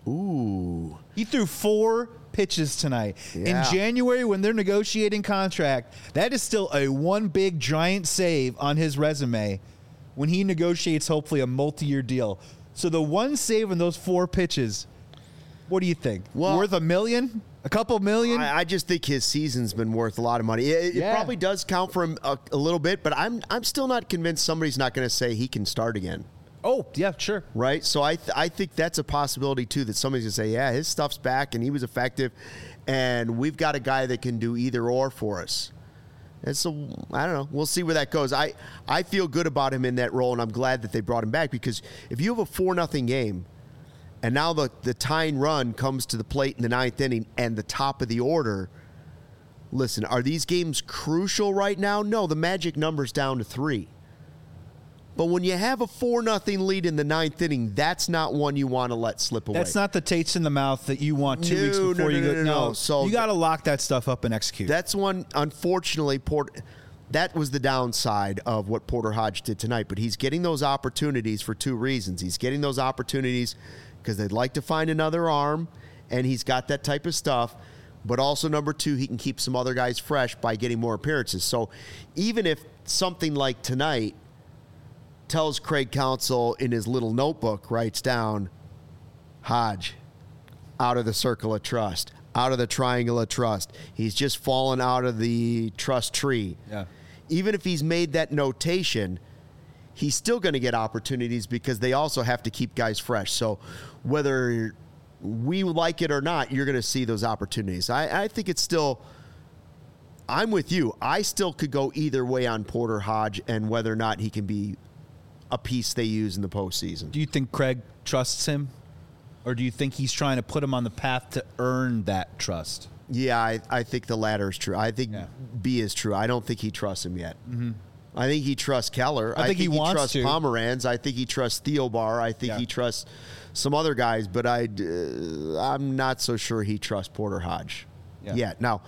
Ooh. He threw 4 pitches tonight. Yeah. In January, when they're negotiating contract, that is still a one big giant save on his resume when he negotiates hopefully a multi-year deal. So the one save in those 4 pitches, what do you think? Well, worth $1 million? A couple million? I just think his season's been worth a lot of money. It probably does count for him a little bit, but I'm still not convinced somebody's not going to say he can start again. Oh, yeah, sure. Right? So I think that's a possibility, too, that somebody's going to say, yeah, his stuff's back and he was effective, and we've got a guy that can do either or for us. And so, I don't know. We'll see where that goes. I feel good about him in that role, and I'm glad that they brought him back, because if you have a 4-0 game, and now the tying run comes to the plate in the 9th inning and the top of the order. Listen, are these games crucial right now? No, the magic number's down to 3. But when you have a 4-0 lead in the 9th inning, that's not one you want to let slip away. That's not the taste in the mouth that you want 2 weeks before you go. No, so you got to lock that stuff up and execute. That's one, unfortunately, that was the downside of what Porter Hodge did tonight. But he's getting those opportunities for 2 reasons. He's getting those opportunities because they'd like to find another arm, and he's got that type of stuff. But also, number 2, he can keep some other guys fresh by getting more appearances. So even if something like tonight tells Craig Counsell in his little notebook, writes down, Hodge, out of the circle of trust, out of the triangle of trust. He's just fallen out of the trust tree. Yeah. Even if he's made that notation, he's still going to get opportunities because they also have to keep guys fresh. So whether we like it or not, you're going to see those opportunities. I think it's still, I'm with you. I still could go either way on Porter Hodge and whether or not he can be a piece they use in the postseason. Do you think Craig trusts him? Or do you think he's trying to put him on the path to earn that trust? Yeah, I think the latter is true. I think B is true. I don't think he trusts him yet. Mm-hmm. I think he trusts Keller. I think he wants trusts to. Pomeranz. I think he trusts Theobar. I think he trusts some other guys, but I'm not so sure he trusts Porter Hodge yet. Now,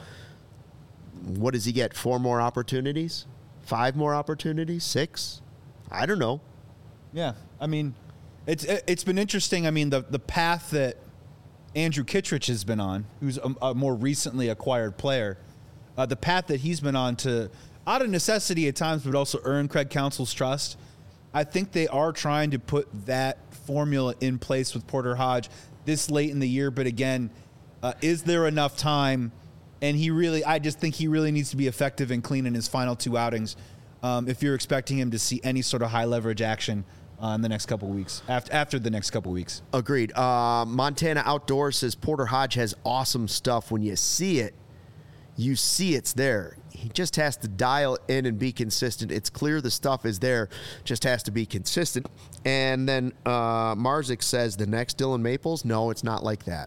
what does he get? 4 more opportunities? 5 more opportunities? 6? I don't know. Yeah, I mean, it's been interesting. I mean, the path that Andrew Kittredge has been on, who's a more recently acquired player, the path that he's been on to, out of necessity at times, but also earn Craig Counsell's trust. I think they are trying to put that formula in place with Porter Hodge this late in the year. But again, is there enough time? And I just think he really needs to be effective and clean in his final 2 outings. If you're expecting him to see any sort of high leverage action in the next couple of weeks, after the next couple of weeks. Agreed. Montana Outdoors says Porter Hodge has awesome stuff. When you see it, you see it's there. He just has to dial in and be consistent. It's clear the stuff is there, just has to be consistent. And then Marzik says the next Dylan Maples. No, it's not like that.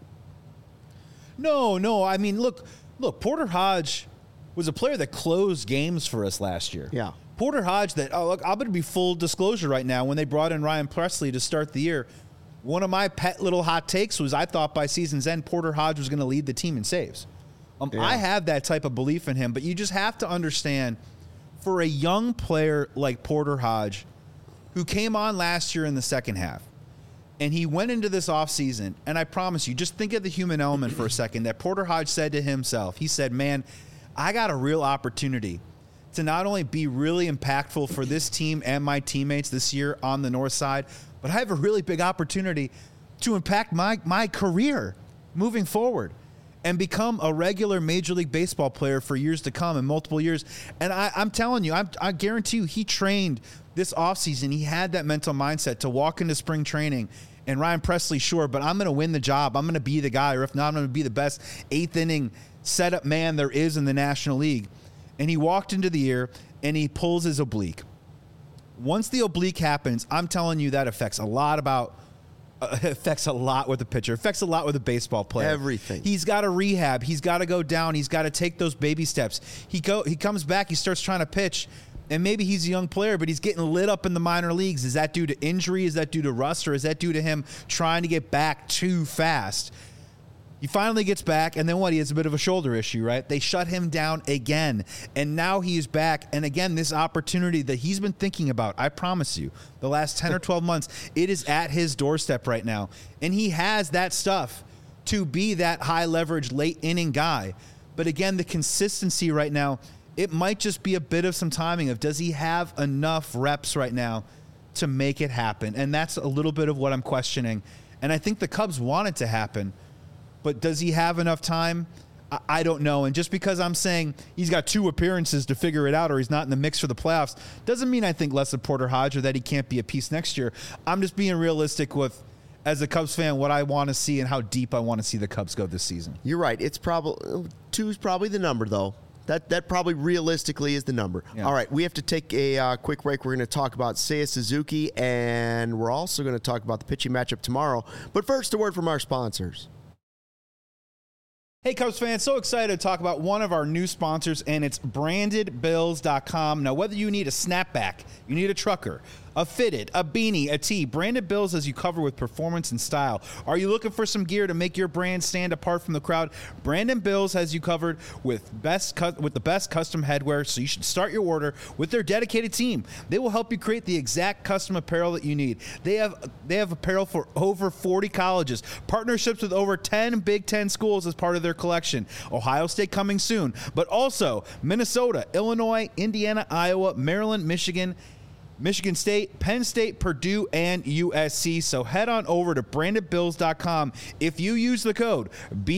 No. I mean, look, Porter Hodge was a player that closed games for us last year. Yeah. Porter Hodge look, I'm going to be full disclosure right now. When they brought in Ryan Presley to start the year, one of my pet little hot takes was I thought by season's end, Porter Hodge was going to lead the team in saves. I have that type of belief in him, but you just have to understand, for a young player like Porter Hodge, who came on last year in the second half, and he went into this offseason, and I promise you, just think of the human element for a second, that Porter Hodge said to himself, he said, man, I got a real opportunity to not only be really impactful for this team and my teammates this year on the north side, but I have a really big opportunity to impact my career moving forward and become a regular Major League Baseball player for years to come, in multiple years. And I'm telling you, I guarantee you, he trained this offseason. He had that mental mindset to walk into spring training. And Ryan Presley, sure, but I'm going to win the job. I'm going to be the guy, or if not, I'm going to be the best 8th inning setup man there is in the National League. And he walked into the year, and he pulls his oblique. Once the oblique happens, I'm telling you, that affects a lot with the pitcher. Affects a lot with a baseball player. Everything. He's got to rehab. He's got to go down. He's got to take those baby steps. He comes back. He starts trying to pitch, and maybe he's a young player, but he's getting lit up in the minor leagues. Is that due to injury? Is that due to rust? Or is that due to him trying to get back too fast? He finally gets back, and then what? He has a bit of a shoulder issue, right? They shut him down again, and now he is back. And again, this opportunity that he's been thinking about, I promise you, the last 10 or 12 months, it is at his doorstep right now. And he has that stuff to be that high-leverage, late-inning guy. But again, the consistency right now, it might just be a bit of some timing of, does he have enough reps right now to make it happen? And that's a little bit of what I'm questioning. And I think the Cubs want it to happen. but does he have enough time? I don't know. And just because I'm saying he's got 2 appearances to figure it out or he's not in the mix for the playoffs doesn't mean I think less of Porter Hodge or that he can't be a piece next year. I'm just being realistic with, as a Cubs fan, what I want to see and how deep I want to see the Cubs go this season. You're right. It's probably 2 is probably the number, though. That probably realistically is the number. Yeah. All right, we have to take a quick break. We're going to talk about Seiya Suzuki, and we're also going to talk about the pitching matchup tomorrow. But first, a word from our sponsors. Hey, Cubs fans, so excited to talk about one of our new sponsors, and it's BrandedBills.com. Now, whether you need a snapback, you need a trucker, a fitted, a beanie, a tee, Branded Bills has you covered with performance and style. Are you looking for some gear to make your brand stand apart from the crowd? Branded Bills has you covered with the best custom headwear, so you should start your order with their dedicated team. They will help you create the exact custom apparel that you need. They have apparel for over 40 colleges, partnerships with over 10 Big Ten schools as part of their collection. Ohio State coming soon, but also Minnesota, Illinois, Indiana, Iowa, Maryland, Michigan State, Penn State, Purdue, and USC. So head on over to brandedbills.com. If you use the code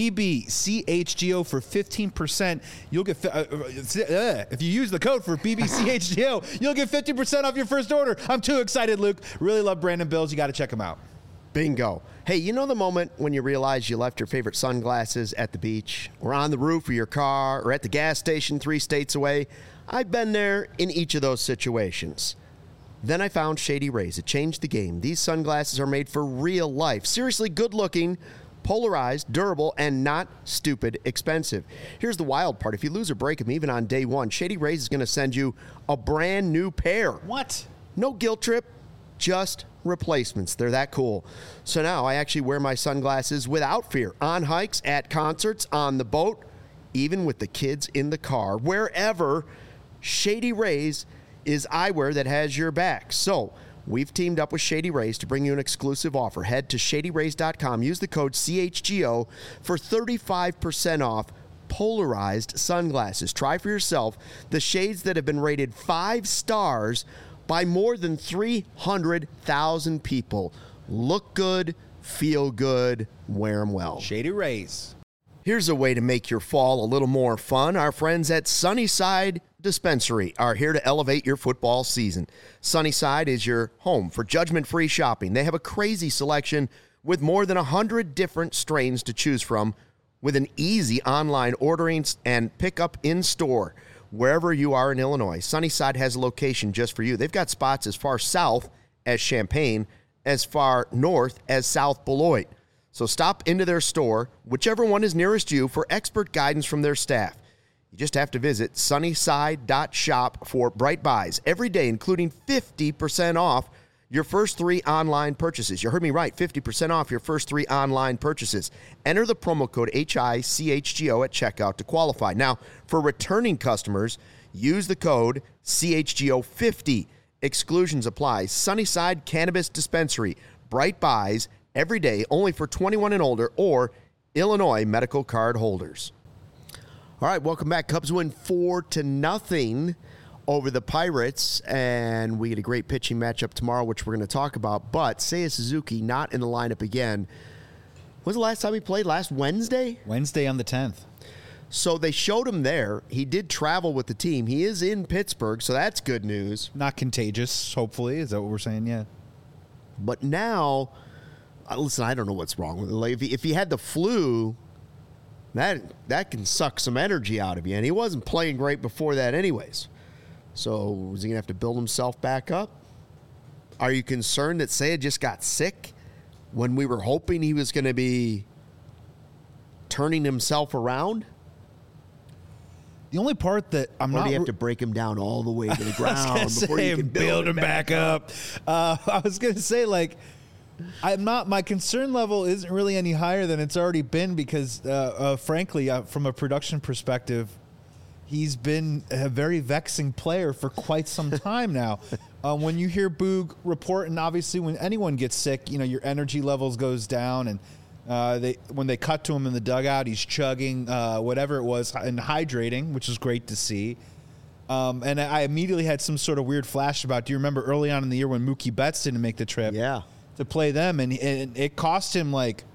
BBCHGO for 15%, you'll get if you use the code for BBCHGO, you'll get 50% off your first order. I'm too excited, Luke. Really love Branded Bills. You got to check them out. Bingo. Hey, you know the moment when you realize you left your favorite sunglasses at the beach or on the roof of your car or at the gas station 3 states away? I've been there in each of those situations. Then I found Shady Rays. It changed the game. These sunglasses are made for real life. Seriously good looking, polarized, durable, and not stupid expensive. Here's the wild part. If you lose or break them even on day 1, Shady Rays is going to send you a brand new pair. What? No guilt trip, just replacements. They're that cool. So now I actually wear my sunglasses without fear. On hikes, at concerts, on the boat, even with the kids in the car. Wherever, Shady Rays is eyewear that has your back. So we've teamed up with Shady Rays to bring you an exclusive offer. Head to shadyrays.com. Use the code CHGO for 35% off polarized sunglasses. Try for yourself the shades that have been rated 5 stars by more than 300,000 people. Look good, feel good, wear them well. Shady Rays. Here's a way to make your fall a little more fun. Our friends at Sunnyside Dispensary are here to elevate your football season. Sunnyside is your home for judgment-free shopping. They have a crazy selection with more than 100 different strains to choose from, with an easy online ordering and pickup in store. Wherever you are in Illinois, Sunnyside has a location just for you. They've got spots as far south as Champaign, as far north as South Beloit. So stop into their store, whichever one is nearest you, for expert guidance from their staff. You just have to visit sunnyside.shop for bright buys every day, including 50% off your first 3 online purchases. You heard me right, 50% off your first 3 online purchases. Enter the promo code HICHGO at checkout to qualify. Now, for returning customers, use the code CHGO50. Exclusions apply. Sunnyside Cannabis Dispensary. Bright buys every day, only for 21 and older or Illinois medical card holders. All right, welcome back. Cubs win 4-0 over the Pirates, and we get a great pitching matchup tomorrow, which we're going to talk about. But Seiya Suzuki not in the lineup again. When's the last time he played? Last Wednesday? Wednesday on the 10th. So they showed him there. He did travel with the team. He is in Pittsburgh, so that's good news. Not contagious, hopefully. Is that what we're saying? Yeah. But now, listen, I don't know what's wrong with him. Like, if he had the flu, that can suck some energy out of you. And he wasn't playing great before that anyways. So is he going to have to build himself back up? Are you concerned that Seiya just got sick when we were hoping he was going to be turning himself around? The only part that I'm not... Or do you have to break him down all the way to the ground before you can build him back up? I was going to say, like, my concern level isn't really any higher than it's already been because, frankly, from a production perspective, he's been a very vexing player for quite some time now. When you hear Boog report, and obviously when anyone gets sick, your energy levels goes down, and when they cut to him in the dugout, he's chugging whatever it was and hydrating, which is great to see. And I immediately had some sort of weird flash about, do you remember early on in the year when Mookie Betts didn't make the trip? Yeah. To play them, and it cost him like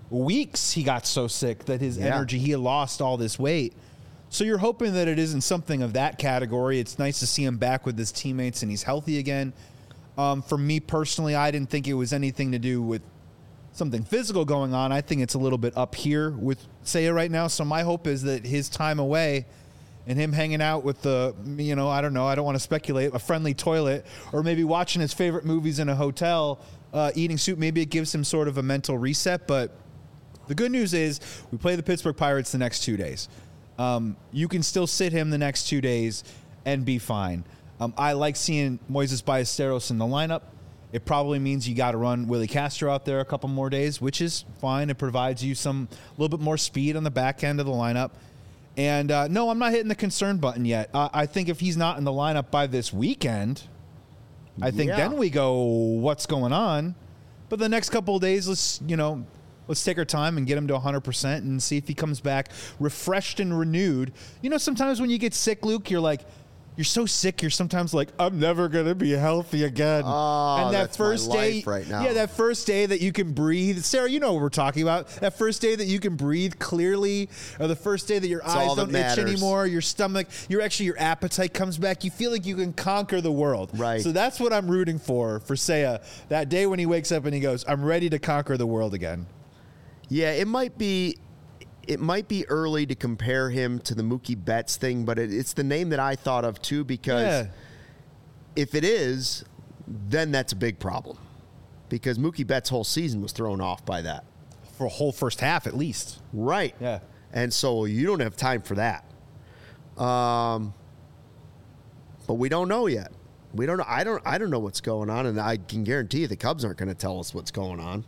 weeks he got so sick that his energy, he had lost all this weight. So you're hoping that it isn't something of that category. It's nice to see him back with his teammates and he's healthy again. For me personally, I didn't think it was anything to do with something physical going on. I think it's a little bit up here with Seiya right now. So my hope is that his time away and him hanging out with the, I don't know, I don't want to speculate, a friendly toilet, or maybe watching his favorite movies in a hotel, eating soup, maybe it gives him sort of a mental reset. But the good news is we play the Pittsburgh Pirates the next 2 days. You can still sit him the next 2 days and be fine. I like seeing Moises Ballesteros in the lineup. It probably means you got to run Willie Castro out there a couple more days, which is fine. It provides you a little bit more speed on the back end of the lineup. And no, I'm not hitting the concern button yet. I think if he's not in the lineup by this weekend, I think then we go, what's going on? But the next couple of days, let's take our time and get him to 100% and see if he comes back refreshed and renewed. Sometimes when you get sick, Luke, you're so sick, you're sometimes like, I'm never going to be healthy again. Oh, and that that's first my day, life right now. Yeah, that first day that you can breathe. Sarah, you know what we're talking about. That first day that you can breathe clearly, or the first day that your eyes don't itch anymore, your stomach, your appetite comes back. You feel like you can conquer the world. Right. So that's what I'm rooting for Seiya. That day when he wakes up and he goes, I'm ready to conquer the world again. Yeah, it might be early to compare him to the Mookie Betts thing, but it's the name that I thought of too, because if it is, then that's a big problem, because Mookie Betts' whole season was thrown off by that. For a whole first half at least. Right. Yeah. And so you don't have time for that. But we don't know yet. We don't know. I don't know what's going on, and I can guarantee you the Cubs aren't going to tell us what's going on.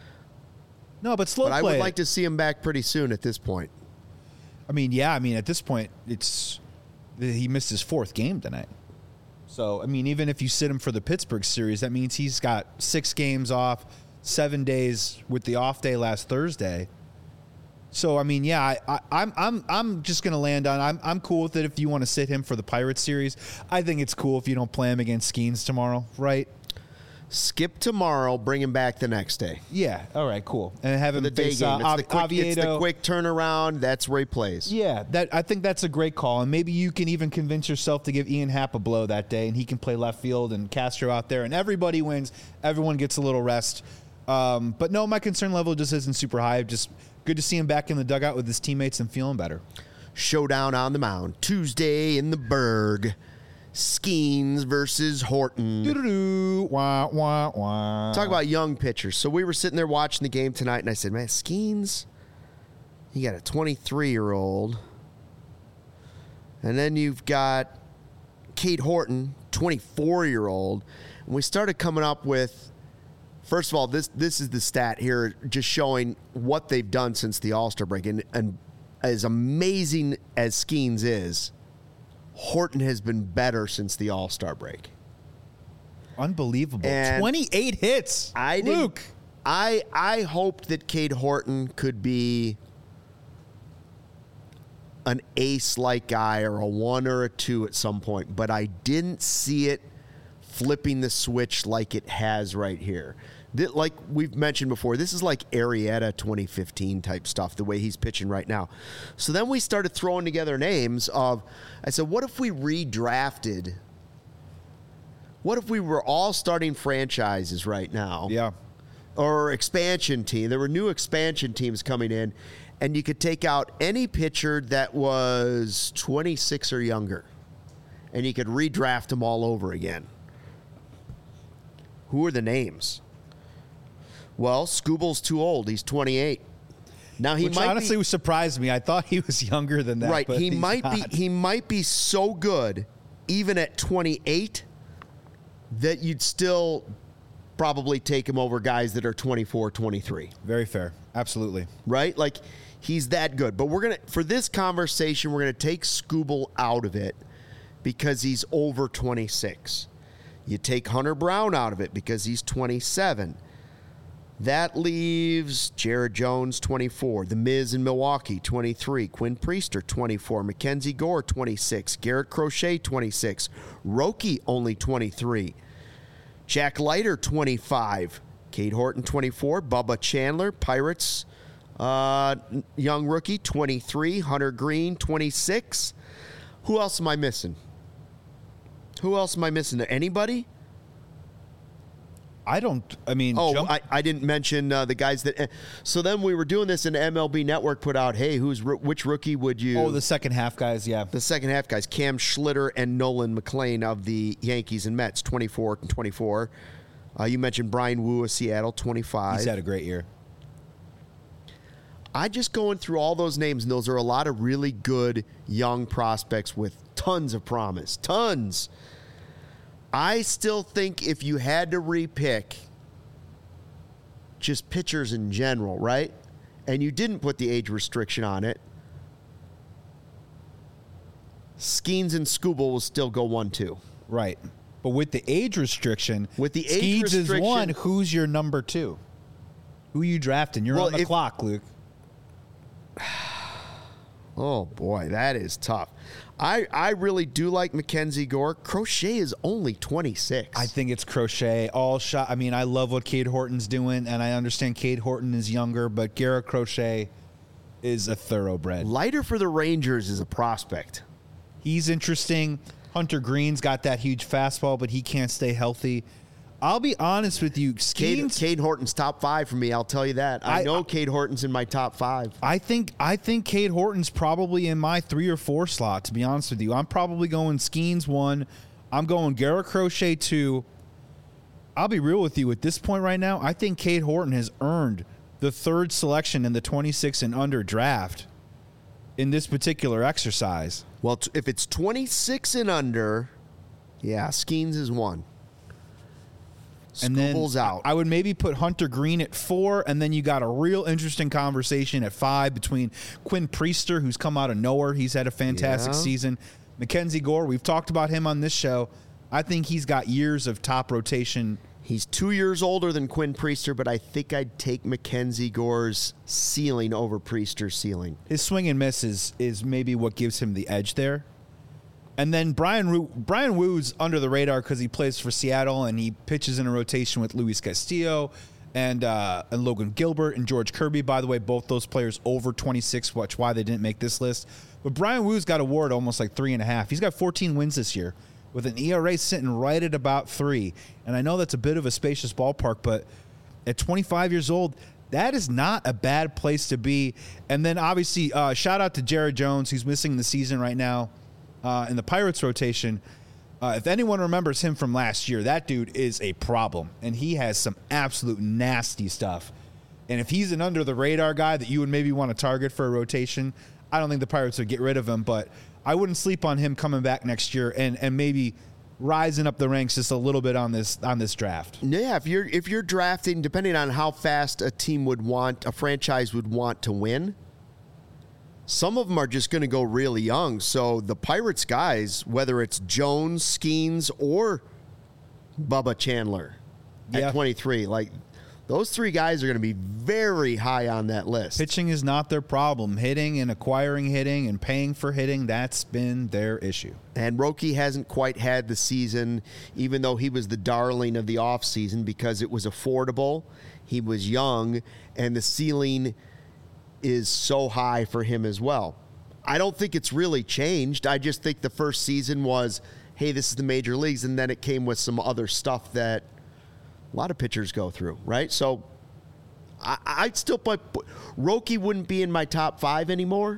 No, but slow play. I would like to see him back pretty soon at this point. At this point, he missed his fourth game tonight. So, even if you sit him for the Pittsburgh series, that means he's got 6 games off, 7 days with the off day last Thursday. So, I'm just going to land on, I'm cool with it if you want to sit him for the Pirates series. I think it's cool if you don't play him against Skeens tomorrow, right? Skip tomorrow, bring him back the next day. Yeah, all right, cool. And have him face Oviedo. It's the quick turnaround. That's where he plays. Yeah, I think that's a great call. And maybe you can even convince yourself to give Ian Happ a blow that day, and he can play left field and Castro out there, and everybody wins. Everyone gets a little rest. But no, my concern level just isn't super high. Just good to see him back in the dugout with his teammates and feeling better. Showdown on the mound. Tuesday in the Berg. Skeens versus Horton. Wah, wah, wah. Talk about young pitchers. So we were sitting there watching the game tonight, and I said, man, Skeens, you got a 23-year-old. And then you've got Cade Horton, 24-year-old. And we started coming up with, first of all, this is the stat here, just showing what they've done since the All-Star break. And as amazing as Skeens is, Horton has been better since the All-Star break. Unbelievable. And 28 hits. Luke. I hoped that Cade Horton could be an ace-like guy or a 1 or a 2 at some point, but I didn't see it flipping the switch like it has right here. Like we've mentioned before, this is like Arrieta 2015 type stuff, the way he's pitching right now. So then we started throwing together names of, I said, what if we redrafted? What if we were all starting franchises right now? Yeah. Or expansion team. There were new expansion teams coming in, and you could take out any pitcher that was 26 or younger, and you could redraft them all over again. Who are the names? Well, Skubal's too old. He's 28. Now Which honestly surprised me. I thought he was younger than that. Right. But he might be so good, even at 28, that you'd still probably take him over guys that are 24, 23. Very fair. Absolutely. Right? Like, he's that good. But for this conversation, we're going to take Skubal out of it because he's over 26. You take Hunter Brown out of it because he's 27. That leaves Jared Jones, 24. The Miz in Milwaukee, 23. Quinn Priester, 24. Mackenzie Gore, 26. Garrett Crochet, 26. Roki, only 23. Jack Leiter, 25. Cade Horton, 24. Bubba Chandler, Pirates, Young rookie, 23. Hunter Green, 26. Who else am I missing? Anybody? I didn't mention the guys that. So then we were doing this, and MLB Network put out, hey, which rookie would you? Oh, the second half guys, yeah. The second half guys, Cam Schlitter and Nolan McLean of the Yankees and Mets, 24 and 24. You mentioned Brian Wu of Seattle, 25. He's had a great year. I just going through all those names, and those are a lot of really good young prospects with tons of promise. Tons. I still think if you had to repick just pitchers in general, right? And you didn't put the age restriction on it, Skeens and Skubal will still go 1-2. Right. But with the age restriction, Skeens is one. Who's your number 2? Who are you drafting? You're on the clock, Luke. Oh, boy, that is tough. I really do like Mackenzie Gore. Crochet is only 26. I think it's Crochet. All shot. I mean, I love what Cade Horton's doing, and I understand Cade Horton is younger, but Garrett Crochet is a thoroughbred. Lighter for the Rangers is a prospect. He's interesting. Hunter Green's got that huge fastball, but he can't stay healthy. I'll be honest with you. Cade Horton's top 5 for me, I'll tell you that. I know Cade Horton's in my top 5. I think Cade Horton's probably in my 3 or 4 slot, to be honest with you. I'm probably going Skeens 1. I'm going Garrett Crochet 2. I'll be real with you. At this point right now, I think Cade Horton has earned the 3rd selection in the 26 and under draft in this particular exercise. Well, if it's 26 and under, yeah, Skeens is 1. And then out. I would maybe put Hunter Green at 4, and then you got a real interesting conversation at 5 between Quinn Priester, who's come out of nowhere. He's had a fantastic season. Mackenzie Gore, we've talked about him on this show. I think he's got years of top rotation. He's 2 years older than Quinn Priester, but I think I'd take Mackenzie Gore's ceiling over Priester's ceiling. His swing and miss is maybe what gives him the edge there. And then Brian Woo's under the radar because he plays for Seattle and he pitches in a rotation with Luis Castillo and Logan Gilbert and George Kirby. By the way, both those players over 26, which why they didn't make this list. But Brian Woo's got a WAR almost like 3.5. He's got 14 wins this year with an ERA sitting right at about 3. And I know that's a bit of a spacious ballpark, but at 25 years old, that is not a bad place to be. And then obviously, shout out to Jared Jones. He's missing the season right now. In the Pirates rotation, if anyone remembers him from last year, that dude is a problem, and he has some absolute nasty stuff. And if he's an under-the-radar guy that you would maybe want to target for a rotation, I don't think the Pirates would get rid of him, but I wouldn't sleep on him coming back next year and maybe rising up the ranks just a little bit on this draft. Yeah, if you're drafting, depending on how fast a franchise would want to win, some of them are just going to go really young. So the Pirates guys, whether it's Jones, Skeens, or Bubba Chandler at 23, like those 3 guys are going to be very high on that list. Pitching is not their problem. Hitting and acquiring hitting and paying for hitting, that's been their issue. And Roki hasn't quite had the season, even though he was the darling of the offseason because it was affordable. He was young, and the ceiling is so high for him as well. I don't think it's really changed. I just think the first season was, hey, this is the major leagues, and then it came with some other stuff that a lot of pitchers go through, right? So I'd still put Roki wouldn't be in my top 5 anymore.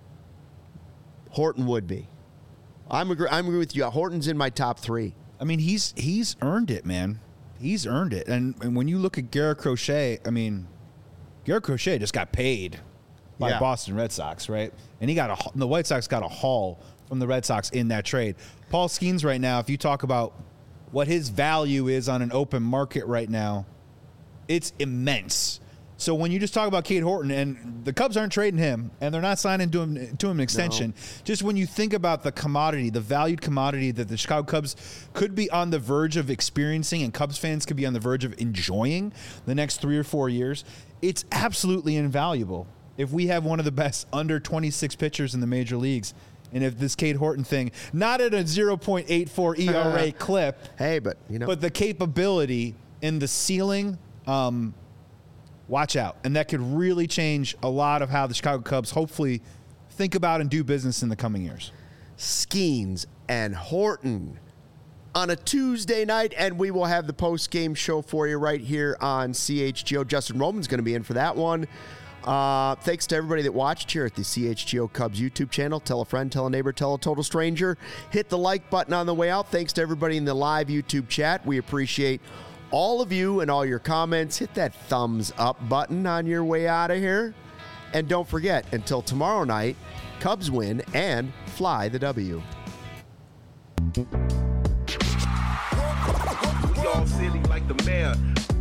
Horton would be. I'm agree with you. Horton's in my top 3. I mean, he's earned it, man. He's earned it. And when you look at Garrett Crochet, I mean, Garrett Crochet just got paid by Boston Red Sox, right? And the White Sox got a haul from the Red Sox in that trade. Paul Skeens right now, if you talk about what his value is on an open market right now, it's immense. So when you just talk about Cade Horton, and the Cubs aren't trading him, and they're not signing to him an extension, just when you think about the commodity, the valued commodity that the Chicago Cubs could be on the verge of experiencing and Cubs fans could be on the verge of enjoying the next 3 or 4 years, it's absolutely invaluable. If we have one of the best under 26 pitchers in the major leagues, and if this Cade Horton thing, not at a 0.84 ERA clip, hey, but the capability and the ceiling, watch out. And that could really change a lot of how the Chicago Cubs hopefully think about and do business in the coming years. Skeens and Horton on a Tuesday night, and we will have the post-game show for you right here on CHGO. Justin Roman's going to be in for that one. Thanks to everybody that watched here at the CHGO Cubs YouTube channel. Tell a friend, tell a neighbor, tell a total stranger. Hit the like button on the way out. Thanks to everybody in the live YouTube chat. We appreciate all of you and all your comments. Hit that thumbs up button on your way out of here. And don't forget, until tomorrow night, Cubs win and fly the W. We all silly like the mayor.